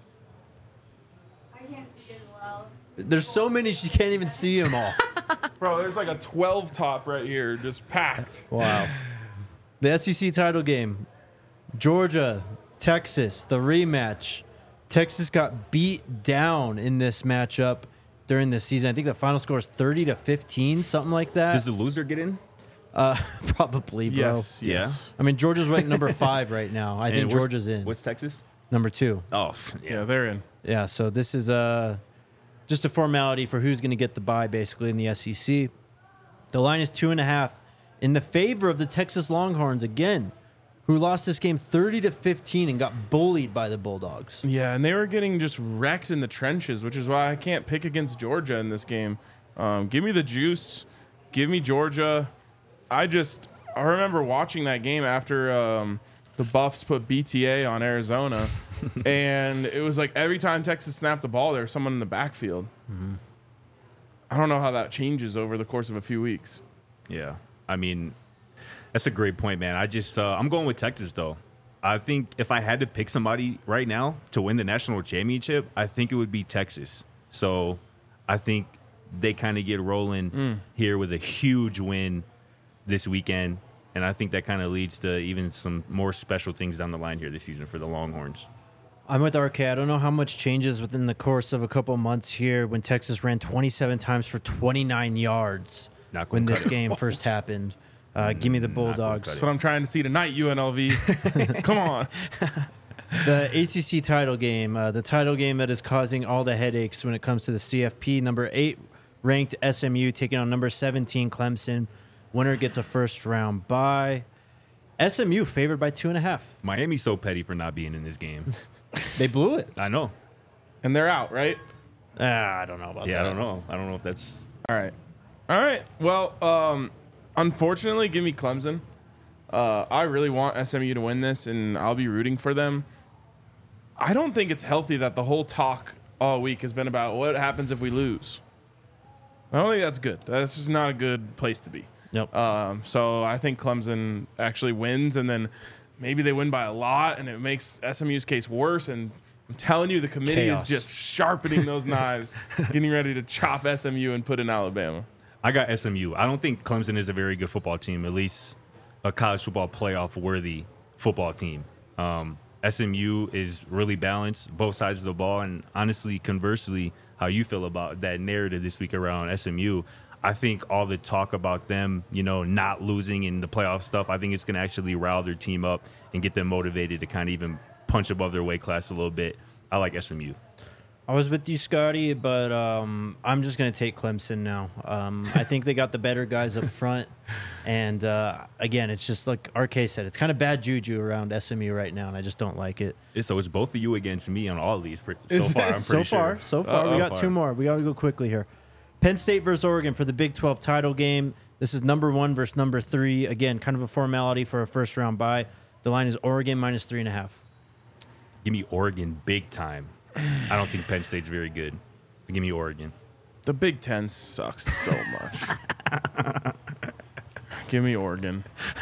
I can't see as well. There's so many she can't even see them all. Bro, there's like a 12 top right here, just packed. Wow. The SEC title game. Georgia, Texas, the rematch. Texas got beat down in this matchup during this season. I think the final score is 30-15, something like that. Does the loser get in? Probably, bro. Yes, Yeah. yes. I mean, Georgia's ranked number 5 right now. I think And Georgia's in. What's Texas? Number 2. Oh, Yeah, they're in. Yeah, so this is just a formality for who's going to get the bye, basically, in the SEC. The line is 2.5 in the favor of the Texas Longhorns again, who lost this game 30-15 and got bullied by the Bulldogs. Yeah, and they were getting just wrecked in the trenches, which is why I can't pick against Georgia in this game. Give me the juice. Give me Georgia. I remember watching that game after the Buffs put BTA on Arizona, and it was like every time Texas snapped the ball, there was someone in the backfield. Mm-hmm. I don't know how that changes over the course of a few weeks. yeah. I mean, that's a great point, man. I'm going with Texas, though. I think if I had to pick somebody right now to win the national championship, I think it would be Texas. So I think they kind of get rolling here with a huge win this weekend. And I think that kind of leads to even some more special things down the line here this season for the Longhorns. I'm with RK. I don't know how much changes within the course of a couple months here when Texas ran 27 times for 29 yards Not gonna when cut this it. game first happened. Give me the Bulldogs. That's what I'm trying to see tonight, UNLV. Come on. The ACC title game, the title game that is causing all the headaches when it comes to the CFP. Number 8 ranked SMU taking on number 17 Clemson. Winner gets a first round bye. SMU favored by 2.5. Miami's so petty for not being in this game. They blew it. I know. And they're out, right? I don't know about that. Yeah, I don't know. I don't know if that's... All right. Well, unfortunately, give me Clemson. I really want SMU to win this, and I'll be rooting for them. I don't think it's healthy that the whole talk all week has been about what happens if we lose. I don't think that's good. That's just not a good place to be. Yep. So I think Clemson actually wins, and then maybe they win by a lot, and it makes SMU's case worse. And I'm telling you, the committee Chaos. is just sharpening those knives, getting ready to chop SMU and put in Alabama. I got SMU. I don't think Clemson is a very good football team, at least a college football playoff worthy football team. SMU is really balanced, both sides of the ball. And honestly, conversely, how you feel about that narrative this week around SMU, I think all the talk about them, not losing in the playoff stuff, I think it's going to actually rile their team up and get them motivated to kind of even punch above their weight class a little bit. I like SMU. I was with you, Scotty, but I'm just going to take Clemson now. I think they got the better guys up front. And, again, it's just like RK said, it's kind of bad juju around SMU right now, and I just don't like it. So it's both of you against me on all of these so far, I'm pretty sure. So far. We got two more. We got to go quickly here. Penn State versus Oregon for the Big 12 title game. This is number 1 versus number 3. Again, kind of a formality for a first-round bye. The line is Oregon minus 3.5. Give me Oregon big time. I don't think Penn State's very good. But give me Oregon. The Big Ten sucks so much. Give me Oregon.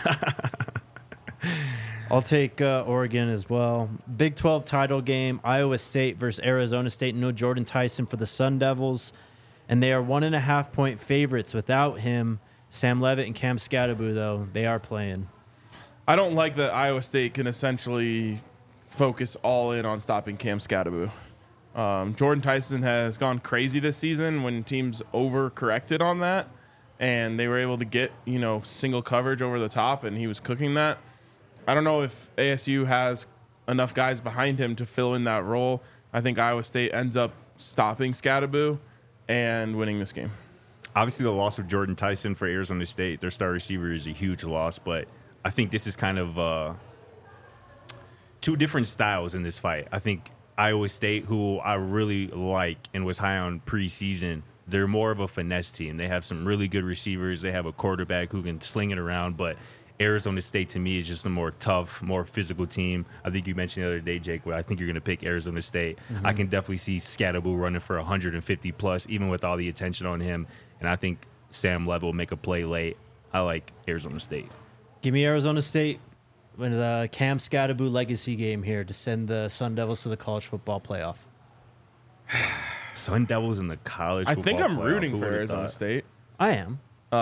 I'll take Oregon as well. Big 12 title game, Iowa State versus Arizona State. No Jordan Tyson for the Sun Devils. And they are 1.5-point favorites without him. Sam Levitt and Cam Scatterbu, though, they are playing. I don't like that Iowa State can essentially focus all in on stopping Cam Scatterbu. Jordan Tyson has gone crazy this season when teams overcorrected on that, and they were able to get, single coverage over the top, and he was cooking that. I don't know if ASU has enough guys behind him to fill in that role. I think Iowa State ends up stopping Scatterbu, and winning this game. Obviously, the loss of Jordan Tyson for Arizona State, their star receiver, is a huge loss. But I think this is kind of two different styles in this fight. I think Iowa State, who I really like and was high on preseason, they're more of a finesse team. They have some really good receivers. They have a quarterback who can sling it around. But Arizona State, to me, is just a more tough, more physical team. I think you mentioned the other day, Jake, where I think you're going to pick Arizona State. I can definitely see Scatteraboo running for 150 plus, even with all the attention on him. And I think Sam Lev will make a play late. I like Arizona State. Give me Arizona State with the Cam Scatteraboo legacy game here to send the Sun Devils to the college football playoff. Sun Devils in the college football I think I'm playoff. rooting Who for would've Arizona thought? State. I am.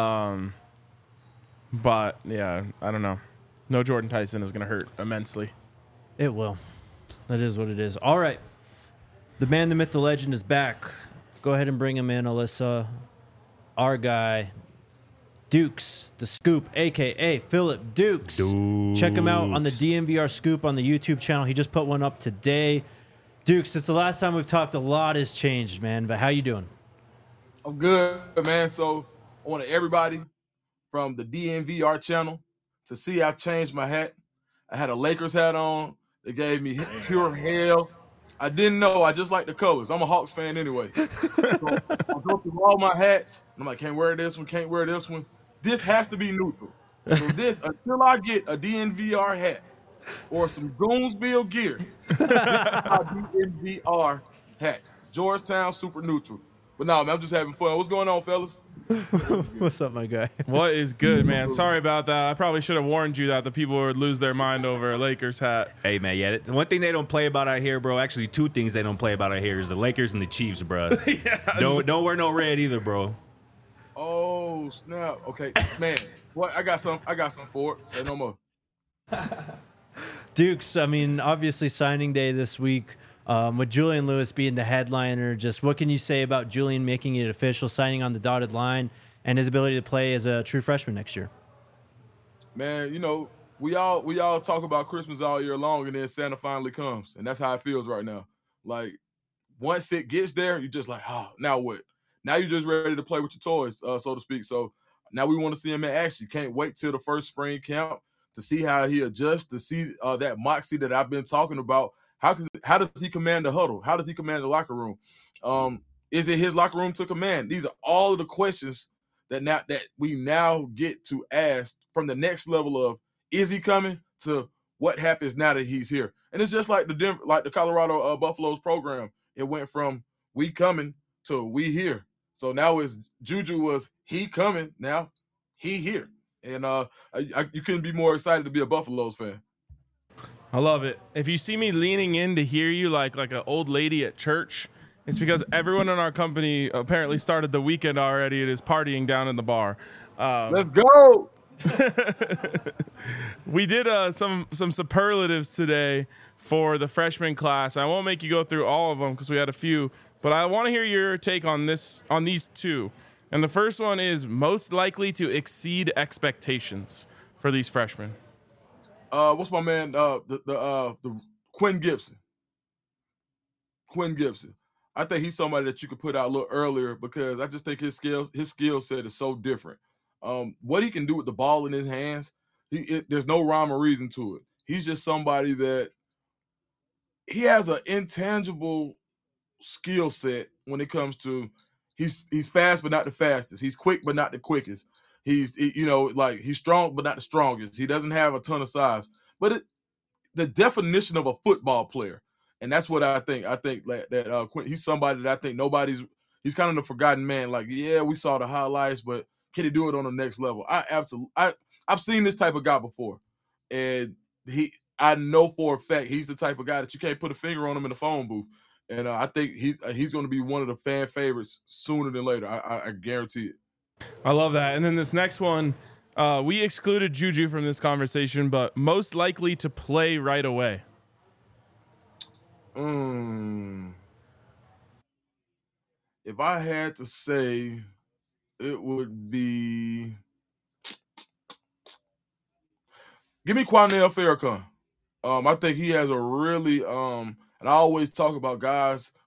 But, yeah, I don't know. No Jordan Tyson is going to hurt immensely. It will. That is what it is. All right. The man, the myth, the legend is back. Go ahead and bring him in, Alyssa. Our guy, Dukes, the Scoop, a.k.a. Philip Dukes. Check him out on the DNVR Scoop on the YouTube channel. He just put one up today. Dukes, since the last time we've talked, a lot has changed, man. But how you doing? I'm good, man. So I want everybody from the DNVR channel to see I changed my hat. I had a Lakers hat on. They gave me pure hell. I didn't know. I just like the colors. I'm a Hawks fan anyway. So I go through all my hats. And I'm like, can't wear this one, can't wear this one. This has to be neutral. So this, until I get a DNVR hat or some Goonsville gear, this is my DNVR hat. Georgetown Super Neutral. But no, man, I'm just having fun. What's going on, fellas? What's up, my guy? What is good, man? Sorry about that. I probably should have warned you that the people would lose their mind over a Lakers hat. Hey, man, yeah. The one thing they don't play about out here, bro, actually two things they don't play about out here is the Lakers and the Chiefs, bro. Don't wear no red either, bro. Oh, snap. Okay, man. What? I got some for it. Say no more. Dukes, I mean, obviously signing day this week. With Julian Lewis being the headliner, just what can you say about Julian making it official, signing on the dotted line, and his ability to play as a true freshman next year? Man, you know, we all talk about Christmas all year long, and then Santa finally comes, and that's how it feels right now. Like, once it gets there, you're just like, oh, now what? Now you're just ready to play with your toys, so to speak. So now we want to see him in action. Can't wait till the first spring camp to see how he adjusts, to see that moxie that I've been talking about. How does he command the huddle? How does he command the locker room? Is it his locker room to command? These are all of the questions that we now get to ask from the next level of, is he coming, to what happens now that he's here. And it's just like the Colorado Buffaloes program. It went from we coming to we here. So now it's Juju was he coming, now he here. And you couldn't be more excited to be a Buffaloes fan. I love it. If you see me leaning in to hear you like an old lady at church, it's because everyone in our company apparently started the weekend already and is partying down in the bar. Let's go. We did some superlatives today for the freshman class. I won't make you go through all of them because we had a few, but I want to hear your take on these two. And the first one is most likely to exceed expectations for these freshmen. What's my man? The Quinn Gibson. Quinn Gibson. I think he's somebody that you could put out a little earlier because I just think his skill set is so different. What he can do with the ball in his hands, there's no rhyme or reason to it. He's just somebody that he has an intangible skill set when it comes to he's fast but not the fastest. He's quick but not the quickest. He's strong but not the strongest. He doesn't have a ton of size. But the definition of a football player, and that's what I think. I think that Quinn, he's somebody that I think he's kind of the forgotten man. Like, yeah, we saw the highlights, but can he do it on the next level? I've seen this type of guy before, and I know for a fact he's the type of guy that you can't put a finger on him in the phone booth. And I think he's going to be one of the fan favorites sooner than later. I guarantee it. I love that. And then this next one, we excluded Juju from this conversation, but most likely to play right away. If I had to say, it would be, give me Quanell Farrakhan. I think he has a really and I always talk about guys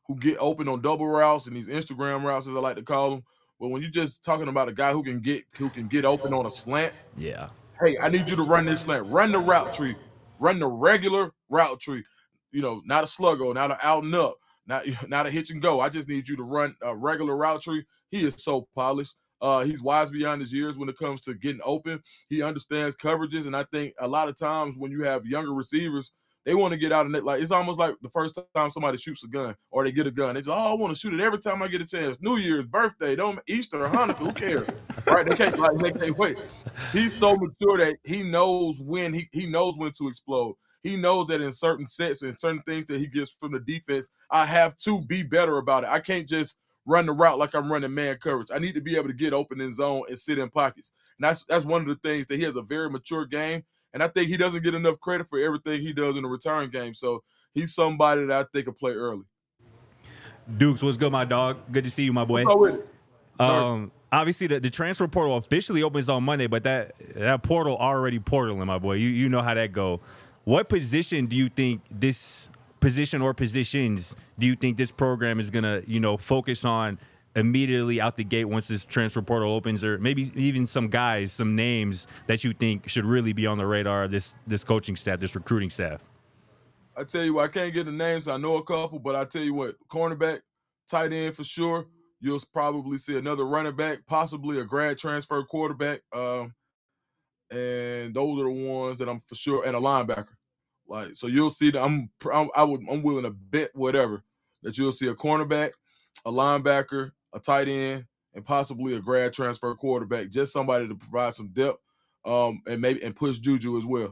who get open on double routes and these Instagram routes, as I like to call them. But when you're just talking about a guy who can get open on a slant, Yeah. hey, I need you to run this slant, run the route tree, run the regular route tree. Not a sluggo, not an out and up, not a hitch and go. I just need you to run a regular route tree. He is so polished. He's wise beyond his years when it comes to getting open. He understands coverages, and I think a lot of times when you have younger receivers, they want to get out of it. Like, it's almost like the first time somebody shoots a gun or they get a gun. They say, "Oh, I want to shoot it every time I get a chance. New Year's, birthday, Easter, Hanukkah, who cares?" Right? They can't wait. He's so mature that he knows when he knows when to explode. He knows that in certain sets and certain things that he gets from the defense, I have to be better about it. I can't just run the route like I'm running man coverage. I need to be able to get open in zone and sit in pockets. And that's one of the things that he has a very mature game. And I think he doesn't get enough credit for everything he does in the return game. So he's somebody that I think will play early. Dukes, what's good, my dog? Good to see you, my boy. What's up with it? Obviously, the transfer portal officially opens on Monday, but that portal already portaling, my boy. You know how that go. What position do you think this position or positions do you think this program is gonna focus on immediately out the gate once this transfer portal opens, or maybe even some guys, some names that you think should really be on the radar of this coaching staff, this recruiting staff? I tell you what, I can't get the names. I know a couple, but I tell you what, cornerback, tight end for sure. You'll probably see another running back, possibly a grad transfer quarterback, and those are the ones that I'm for sure, and a linebacker. Like, so you'll see that I'm willing to bet whatever that you'll see a cornerback, a linebacker, a tight end, and possibly a grad transfer quarterback. Just somebody to provide some depth, and push Juju as well.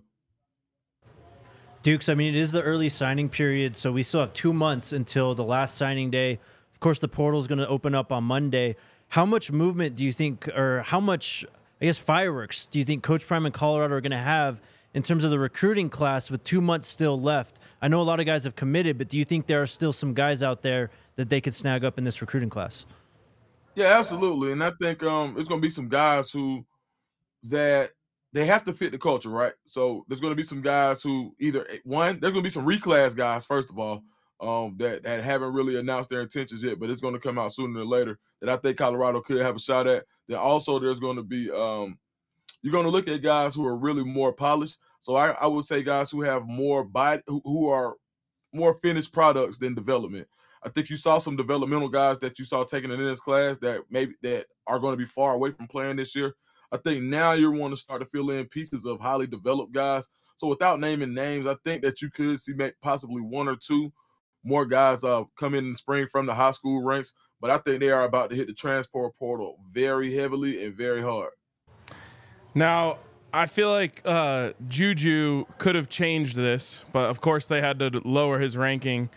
Dukes, I mean, it is the early signing period, so we still have 2 months until the last signing day. Of course, the portal is going to open up on Monday. How much movement do you think, or how much, I guess, fireworks do you think Coach Prime and Colorado are going to have in terms of the recruiting class with 2 months still left? I know a lot of guys have committed, but do you think there are still some guys out there that they could snag up in this recruiting class? Yeah, absolutely. And I think it's going to be some guys that they have to fit the culture, right? So there's going to be some guys who there's going to be some reclass guys, first of all, that haven't really announced their intentions yet, but it's going to come out sooner than later, that I think Colorado could have a shot at. Then also there's going to be you're going to look at guys who are really more polished. So I would say guys who have more body, who are more finished products than development. I think you saw some developmental guys that you saw taking it in this class that are going to be far away from playing this year. I think now you want to start to fill in pieces of highly developed guys. So without naming names, I think that you could see possibly one or two more guys come in the spring from the high school ranks. But I think they are about to hit the transfer portal very heavily and very hard. Now, I feel like Juju could have changed this, but of course they had to lower his ranking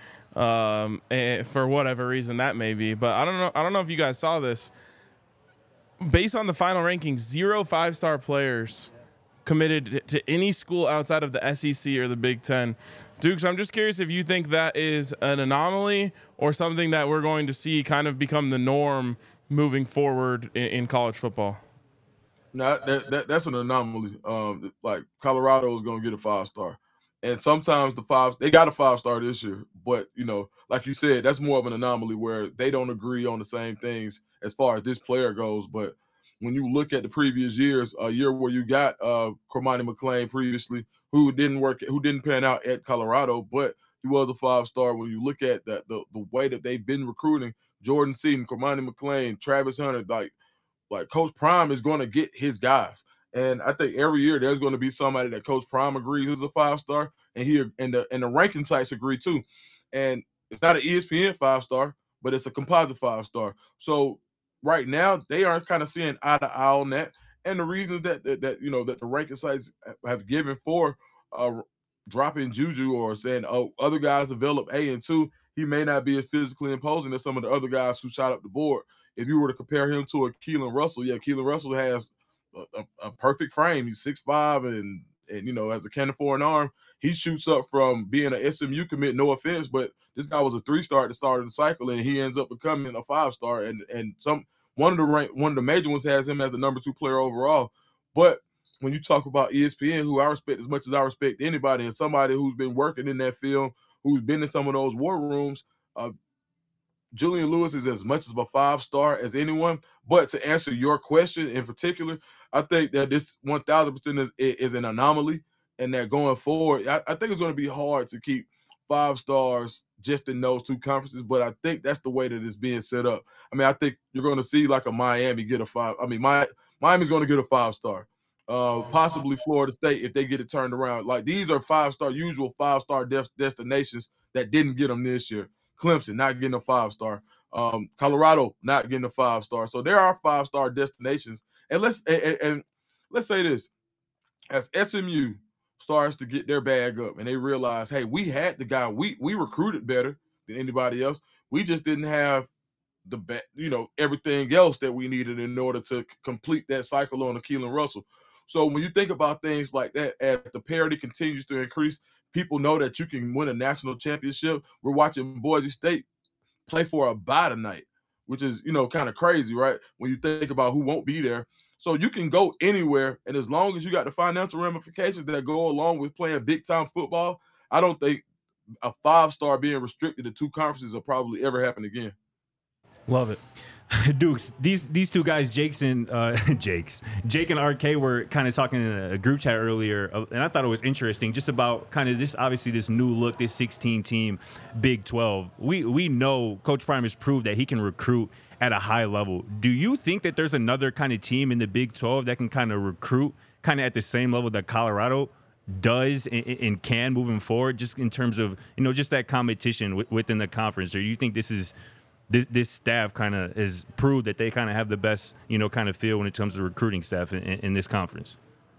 for whatever reason that may be. But I don't know if you guys saw this. Based on the final rankings, 0 5-star players committed to any school outside of the SEC or the Big Ten. Dukes, I'm just curious if you think that is an anomaly or something that we're going to see kind of become the norm moving forward in college football. No, that's an anomaly. Like Colorado is going to get a 5-star, and sometimes they got a 5-star this year, but like you said, that's more of an anomaly where they don't agree on the same things as far as this player goes. But when you look at the previous years, a year where you got Cormani McClain previously, who didn't pan out at Colorado, but he was a 5-star. When you look at the way that they've been recruiting, Jordan Seaton, Cormani McClain, Travis Hunter, like Coach Prime is going to get his guys. And I think every year there's going to be somebody that Coach Prime agrees is a 5-star, and the ranking sites agree too. And it's not an ESPN 5-star, but it's a composite 5-star. So right now they are kind of seeing eye to eye on that. And the reasons that the ranking sites have given for dropping Juju or saying, oh, other guys develop A and 2, he may not be as physically imposing as some of the other guys who shot up the board. If you were to compare him to a Keelan Russell, Keelan Russell has a perfect frame. He's 6'5", and has a cannon for an arm. He shoots up from being an SMU commit, no offense, but this guy was a 3-star at the start of the cycle, and he ends up becoming a 5-star. And one of the major ones has him as the number 2 player overall. But when you talk about ESPN, who I respect as much as I respect anybody, and somebody who's been working in that field, who's been in some of those war rooms, Julian Lewis is as much of a 5-star as anyone. But to answer your question in particular, I think that this 1,000% is an anomaly, and that going forward, I think it's going to be hard to keep 5 stars just in those two conferences. But I think that's the way that it's being set up. I mean, I think you're going to see like a Miami get a 5. I mean, Miami's going to get a 5-star. Possibly Florida State if they get it turned around. Like these are 5-star, usual 5-star destinations that didn't get them this year. Clemson not getting a 5-star. Colorado not getting a 5-star. So there are 5-star destinations. And let's say this: as SMU starts to get their bag up and they realize, hey, we had the guy, we recruited better than anybody else. We just didn't have everything else that we needed in order to complete that cycle on Keelan Russell. So when you think about things like that, as the parity continues to increase, people know that you can win a national championship. We're watching Boise State play for a bye tonight, which is, kind of crazy, right? When you think about who won't be there. So you can go anywhere, and as long as you got the financial ramifications that go along with playing big-time football, I don't think a 5-star being restricted to 2 conferences will probably ever happen again. Love it. Dukes, these two guys, Jake and RK were kind of talking in a group chat earlier, and I thought it was interesting just about kind of this, obviously this new look, this 16-team Big 12. We know Coach Prime has proved that he can recruit at a high level. Do you think that there's another kind of team in the Big 12 that can kind of recruit kind of at the same level that Colorado does and can moving forward, just in terms of, just that competition within the conference? Or do you think this staff kind of has proved that they kind of have the best, kind of feel when it comes to recruiting staff in this conference?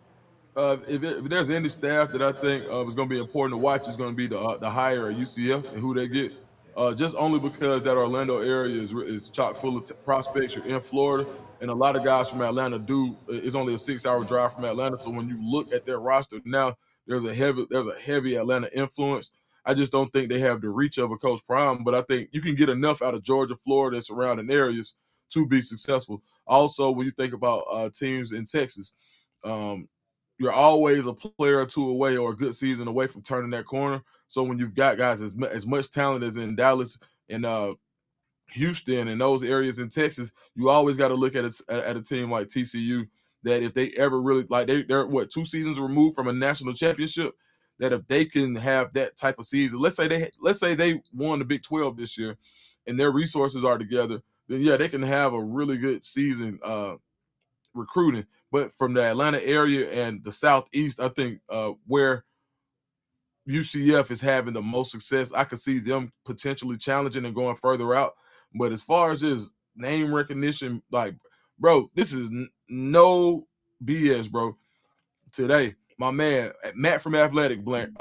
If there's any staff that I think is going to be important to watch, is going to be the hire at UCF and who they get. Just only because that Orlando area is chock full of prospects. You're in Florida, and a lot of guys from Atlanta it's only a 6-hour drive from Atlanta. So when you look at their roster now, there's a heavy Atlanta influence. I just don't think they have the reach of a Coach Prime, but I think you can get enough out of Georgia, Florida, and surrounding areas to be successful. Also, when you think about teams in Texas, you're always a player or two away or a good season away from turning that corner. So when you've got guys as much talent as in Dallas and Houston and those areas in Texas, you always got to look at a team like TCU, that if they ever really, like, they're 2 seasons removed from a national championship, that if they can have that type of season, let's say they won the Big 12 this year and their resources are together, then yeah, they can have a really good season recruiting. But from the Atlanta area and the Southeast, I think where UCF is having the most success, I could see them potentially challenging and going further out. But as far as just name recognition, like, bro, this is no BS, bro. Today, my man Matt from Atlantic brand,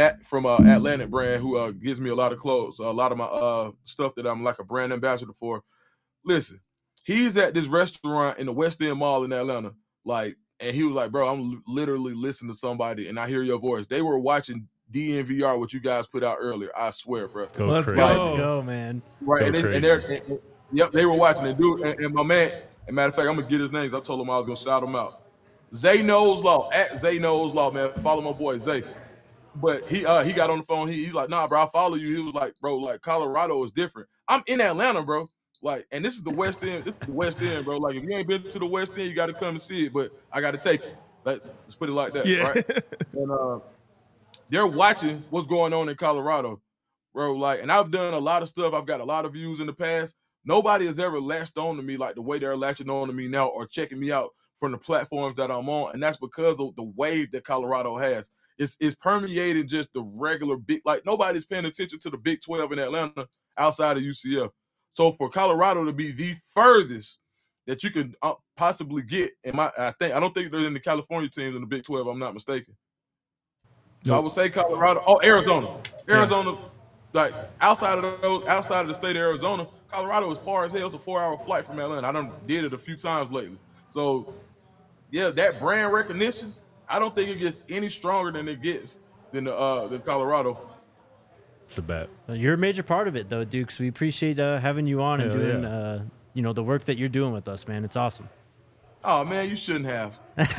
who gives me a lot of clothes, a lot of my stuff that I'm like a brand ambassador for. Listen, he's at this restaurant in the West End Mall in Atlanta, like, and he was like, bro, I'm literally listening to somebody and I hear your voice. They were watching DNVR, what you guys put out earlier. I swear, bro. Let's go, man. Right, yep, they were watching it, dude. And my man, and matter of fact, I'm gonna get his names. I told him I was gonna shout him out. Zay Knows Law, at Zay Knows Law, man. Follow my boy Zay. But he got on the phone. He's like, nah, bro, I follow you. He was like, bro, like Colorado is different. I'm in Atlanta, bro. Like, and this is the West End. This is the West End, bro. Like, if you ain't been to the West End, you got to come and see it. But I got to take it. Let's put it like that, right? And they're watching what's going on in Colorado, bro. Like, and I've done a lot of stuff. I've got a lot of views in the past. Nobody has ever latched on to me like the way they're latching on to me now, or checking me out from the platforms that I'm on. And that's because of the wave that Colorado has. It's permeated just the regular big, like, nobody's paying attention to the Big 12 in Atlanta outside of UCF. So for Colorado to be the furthest that you could possibly get, I don't think they're in the California teams in the Big 12. I'm not mistaken. So I would say Colorado. Oh, Arizona, yeah. Like outside of the state of Arizona, Colorado is far as hell. It's a 4-hour flight from Atlanta. I done did it a few times lately. So yeah, that brand recognition, I don't think it gets any stronger than it gets than Colorado. It's a bet. You're a major part of it, though, Dukes. We appreciate having you on and doing, the work that you're doing with us, man. It's awesome. Oh, man, you shouldn't have.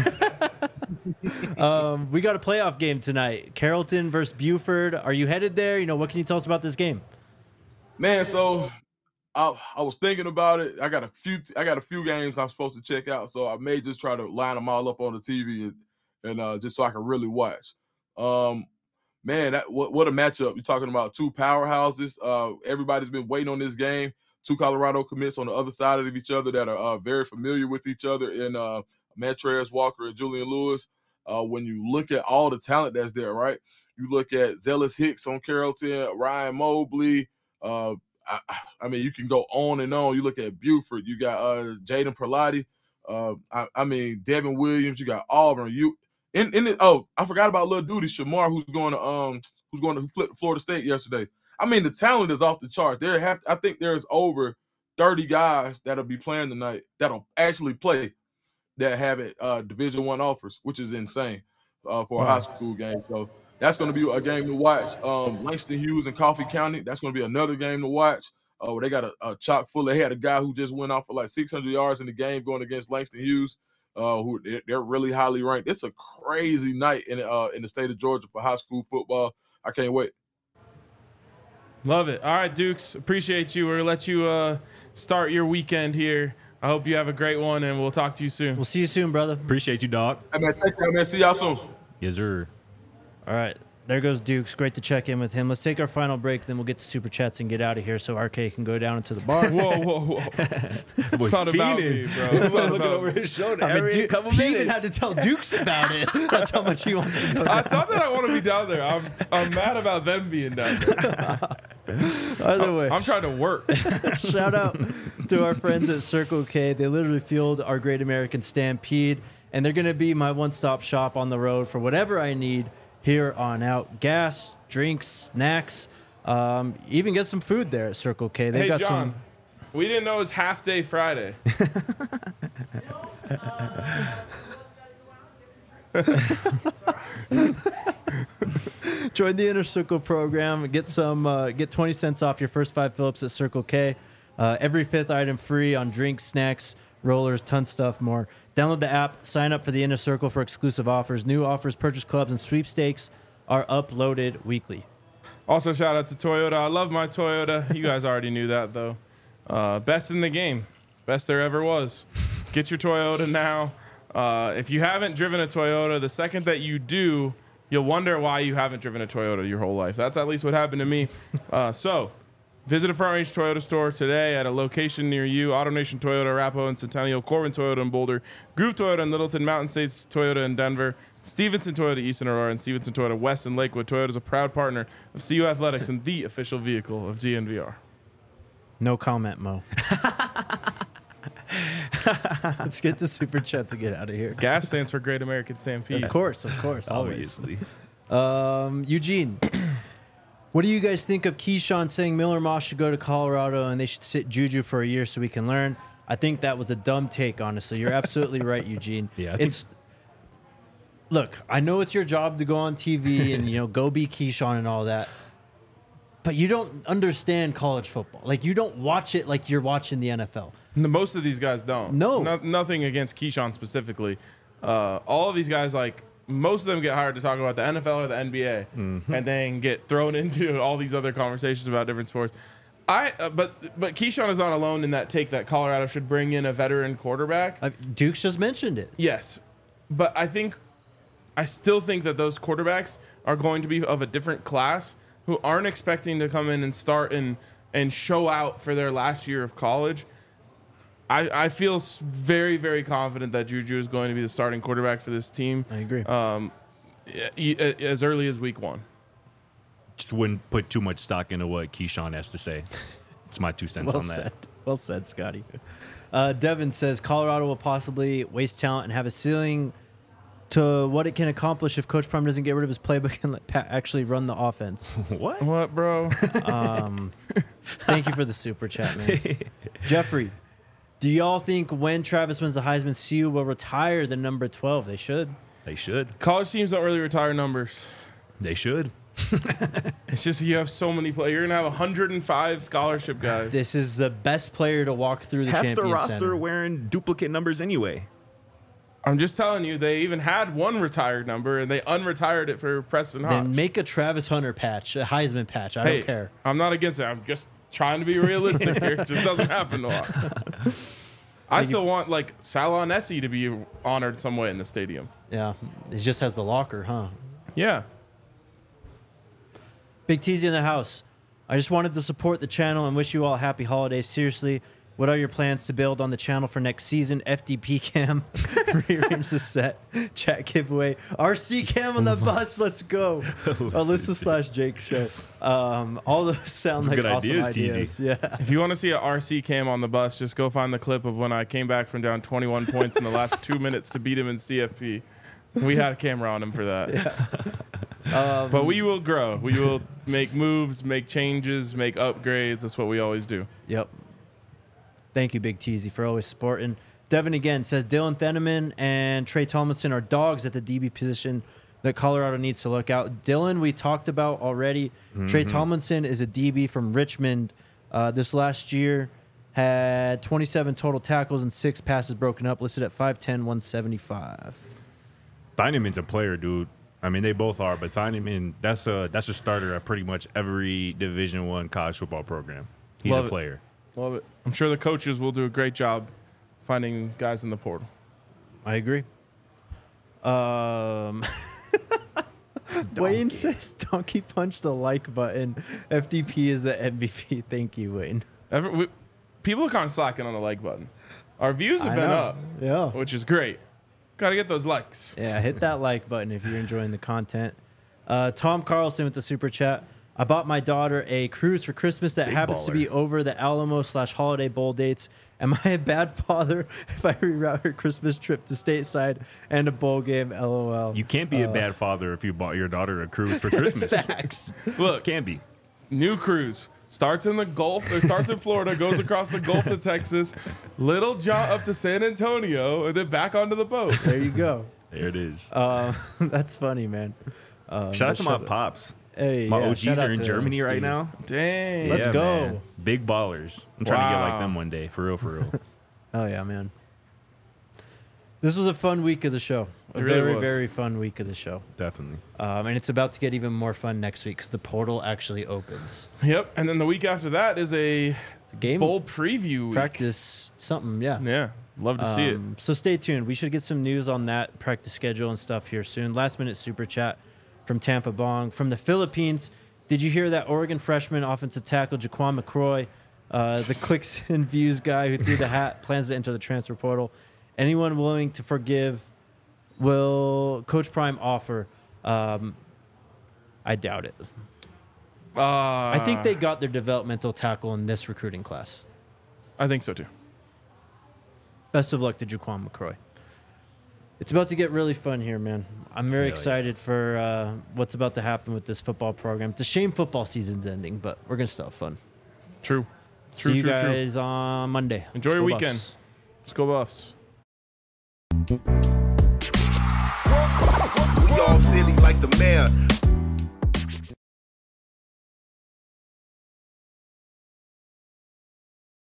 We got a playoff game tonight. Carrollton versus Buford. Are you headed there? What can you tell us about this game? Man, so I was thinking about it. I got a few games I'm supposed to check out, so I may just try to line them all up on the TV and just so I can really watch. Man, what a matchup! You're talking about two powerhouses. Everybody's been waiting on this game. Two Colorado commits on the other side of each other that are very familiar with each other in Montrez Walker and Julian Lewis. When you look at all the talent that's there, right? You look at Zealous Hicks on Carrollton, Ryan Mobley. I mean, you can go on and on. You look at Buford. You got Jaden Perlotti. I mean, Devin Williams. You got Auburn. I forgot about Lil Duty Shamar, who flipped Florida State yesterday. I mean, the talent is off the charts. I think there's over 30 guys that'll be playing tonight that'll actually play that have Division I offers, which is insane for a high school game. So that's going to be a game to watch. Langston Hughes and Coffee County, that's going to be another game to watch. They got a chock full. They had a guy who just went off for like 600 yards in the game going against Langston Hughes. Who they're really highly ranked. It's a crazy night in the state of Georgia for high school football. I can't wait. Love it. All right, Dukes, appreciate you. We're going to let you start your weekend here. I hope you have a great one, and we'll talk to you soon. We'll see you soon, brother. Appreciate you, dog. Hey, man, thank you, man. See y'all soon. Yes, sir. All right. There goes Dukes. Great to check in with him. Let's take our final break, then we'll get to Super Chats and get out of here so RK can go down into the bar. Whoa. It's not about me, bro. It's not looking about over me. his shoulder I mean, every couple he minutes. even had to tell Dukes about it. That's how much he wants to go down. I thought that I want to be down there. I'm mad about them being down there. Either way, I'm trying to work. shout out to our friends at Circle K. They literally fueled our Great American Stampede, and they're going to be my one-stop shop on the road for whatever I need here on out. Gas, drinks, snacks, even get some food there at Circle K. They've Hey, got John, we didn't know it was Half Day Friday. Join the Inner Circle program. Get 20 cents off your first 5 Phillips at Circle K. Every 5th item free on drinks, snacks, rollers, ton stuff more. Download the app, sign up for the Inner Circle for exclusive offers. New offers, purchase clubs, and sweepstakes are uploaded weekly. Also, shout out to Toyota. I love my Toyota. You guys already knew that, though. Best in the game. Best there ever was. Get your Toyota now. If you haven't driven a Toyota, the second that you do, you'll wonder why you haven't driven a Toyota your whole life. That's at least what happened to me. So visit a Front Range Toyota store today at a location near you. AutoNation Toyota, Arapahoe and Centennial, Corbin Toyota in Boulder, Groove Toyota in Littleton, Mountain States Toyota in Denver, Stevenson Toyota East in Aurora, and Stevenson Toyota West in Lakewood. Toyota is a proud partner of CU Athletics and the official vehicle of GNVR. No comment, Mo. Let's get the Super Chats and get out of here. GAS stands for Great American Stampede. Of course, always. Obviously. Eugene, what do you guys think of Keyshawn saying Miller Moss should go to Colorado and they should sit Juju for a year so we can learn? I think that was a dumb take, honestly. You're absolutely right, Eugene. Yeah, Look, I know it's your job to go on TV and go be Keyshawn and all that, but you don't understand college football. Like, you don't watch it like you're watching the NFL. Most of these guys don't. No. Nothing against Keyshawn specifically. All of these guys, most of them get hired to talk about the NFL or the NBA, and then get thrown into all these other conversations about different sports. But Keyshawn is not alone in that take that Colorado should bring in a veteran quarterback. Dukes just mentioned it. Yes, but I still think that those quarterbacks are going to be of a different class who aren't expecting to come in and start and show out for their last year of college. I feel very, very confident that Juju is going to be the starting quarterback for this team. I agree. As early as week 1. Just wouldn't put too much stock into what Keyshawn has to say. It's my 2 cents on that. Well said, Scotty. Devin says Colorado will possibly waste talent and have a ceiling to what it can accomplish if Coach Prime doesn't get rid of his playbook and let Pat actually run the offense. What, bro? Thank you for the super chat, man. Jeffrey, do y'all think when Travis wins the Heisman, CU will retire the number 12? They should. They should. College teams don't really retire numbers. They should. It's just you have so many players. You're going to have 105 scholarship guys. This is the best player to walk through the Half Champions the roster Center. wearing duplicate numbers anyway. I'm just telling you, they even had one retired number, and they unretired it for Preston Hodge. Then make a Travis Hunter patch, a Heisman patch. I don't care. I'm not against it. I'm just trying to be realistic here. It just doesn't happen a lot. I still want like Salah Nessie to be honored some way in the stadium. Yeah, it just has the locker, huh? Yeah. Big Teasy in the house. I just wanted to support the channel and wish you all happy holidays. Seriously, what are your plans to build on the channel for next season? FDP cam, rearrange the set, chat giveaway, RC cam on the bus. Let's go. Alyssa/Jake show. All those sound like good awesome ideas, ideas. Teasy. Yeah. If you want to see a RC cam on the bus, just go find the clip of when I came back from down 21 points in the last 2 minutes to beat him in CFP. We had a camera on him for that. But we will grow. We will make moves, make changes, make upgrades. That's what we always do. Yep. Thank you, Big Teasy, for always supporting. Devin again says Dylan Theneman and Trey Tomlinson are dogs at the DB position that Colorado needs to look out. Dylan, we talked about already. Trey Tomlinson is a DB from Richmond. This last year had 27 total tackles and 6 passes broken up, listed at 5'10", 175. Thieneman's a player, dude. I mean, they both are, but Thieneman, that's a starter at pretty much every Division I college football program. He's Love a it. player. Love it. I'm sure the coaches will do a great job finding guys in the portal. I agree. Wayne says, "Donkey punch the like button. FDP is the MVP." Thank you, Wayne. People are kind of slacking on the like button. Our views have I been know. up, Yeah. which is great. Got to get those likes. Yeah, hit that like button if you're enjoying the content. Tom Carlson with the super chat. I bought my daughter a cruise for Christmas that Big happens to be baller. over the Alamo/Holiday Bowl dates. Am I a bad father if I reroute her Christmas trip to stateside and a bowl game? LOL. You can't be a bad father if you bought your daughter a cruise for Christmas. Facts. Look, Can be. new cruise. Starts in the Gulf, or starts in Florida, goes across the Gulf to Texas, little jaunt up to San Antonio, and then back onto the boat. There you go. There it is. That's funny, man. Shout out to my pops. Hey, My yeah, OGs shout out are in to Germany right Steve. now. Dang. Let's Yeah, go. man. Big ballers. I'm trying to get like Wow. them one day. For real, for real. Oh yeah, man. This was a fun week of the show. A It really very, was. very fun week of the show. Definitely. And it's about to get even more fun next week because the portal actually opens. Yep. And then the week after that is a It's a game bowl preview week. practice something, yeah. Yeah. Love to see it. So stay tuned. We should get some news on that practice schedule and stuff here soon. Last minute super chat from Tampa Bong. From the Philippines, did you hear that Oregon freshman offensive tackle Jaquan McCroy, the clicks and views guy who threw the hat, plans to enter the transfer portal? Anyone willing to forgive will Coach Prime offer? I doubt it. I think they got their developmental tackle in this recruiting class. I think so too. Best of luck to Jaquan McCroy. It's about to get really fun here, man. I'm very Hell yeah. excited for what's about to happen with this football program. It's a shame football season's ending, but we're going to still have fun. True. See you True. guys on Monday. Enjoy Let's your go weekend. Buffs. Let's go Buffs. We all silly like the mayor.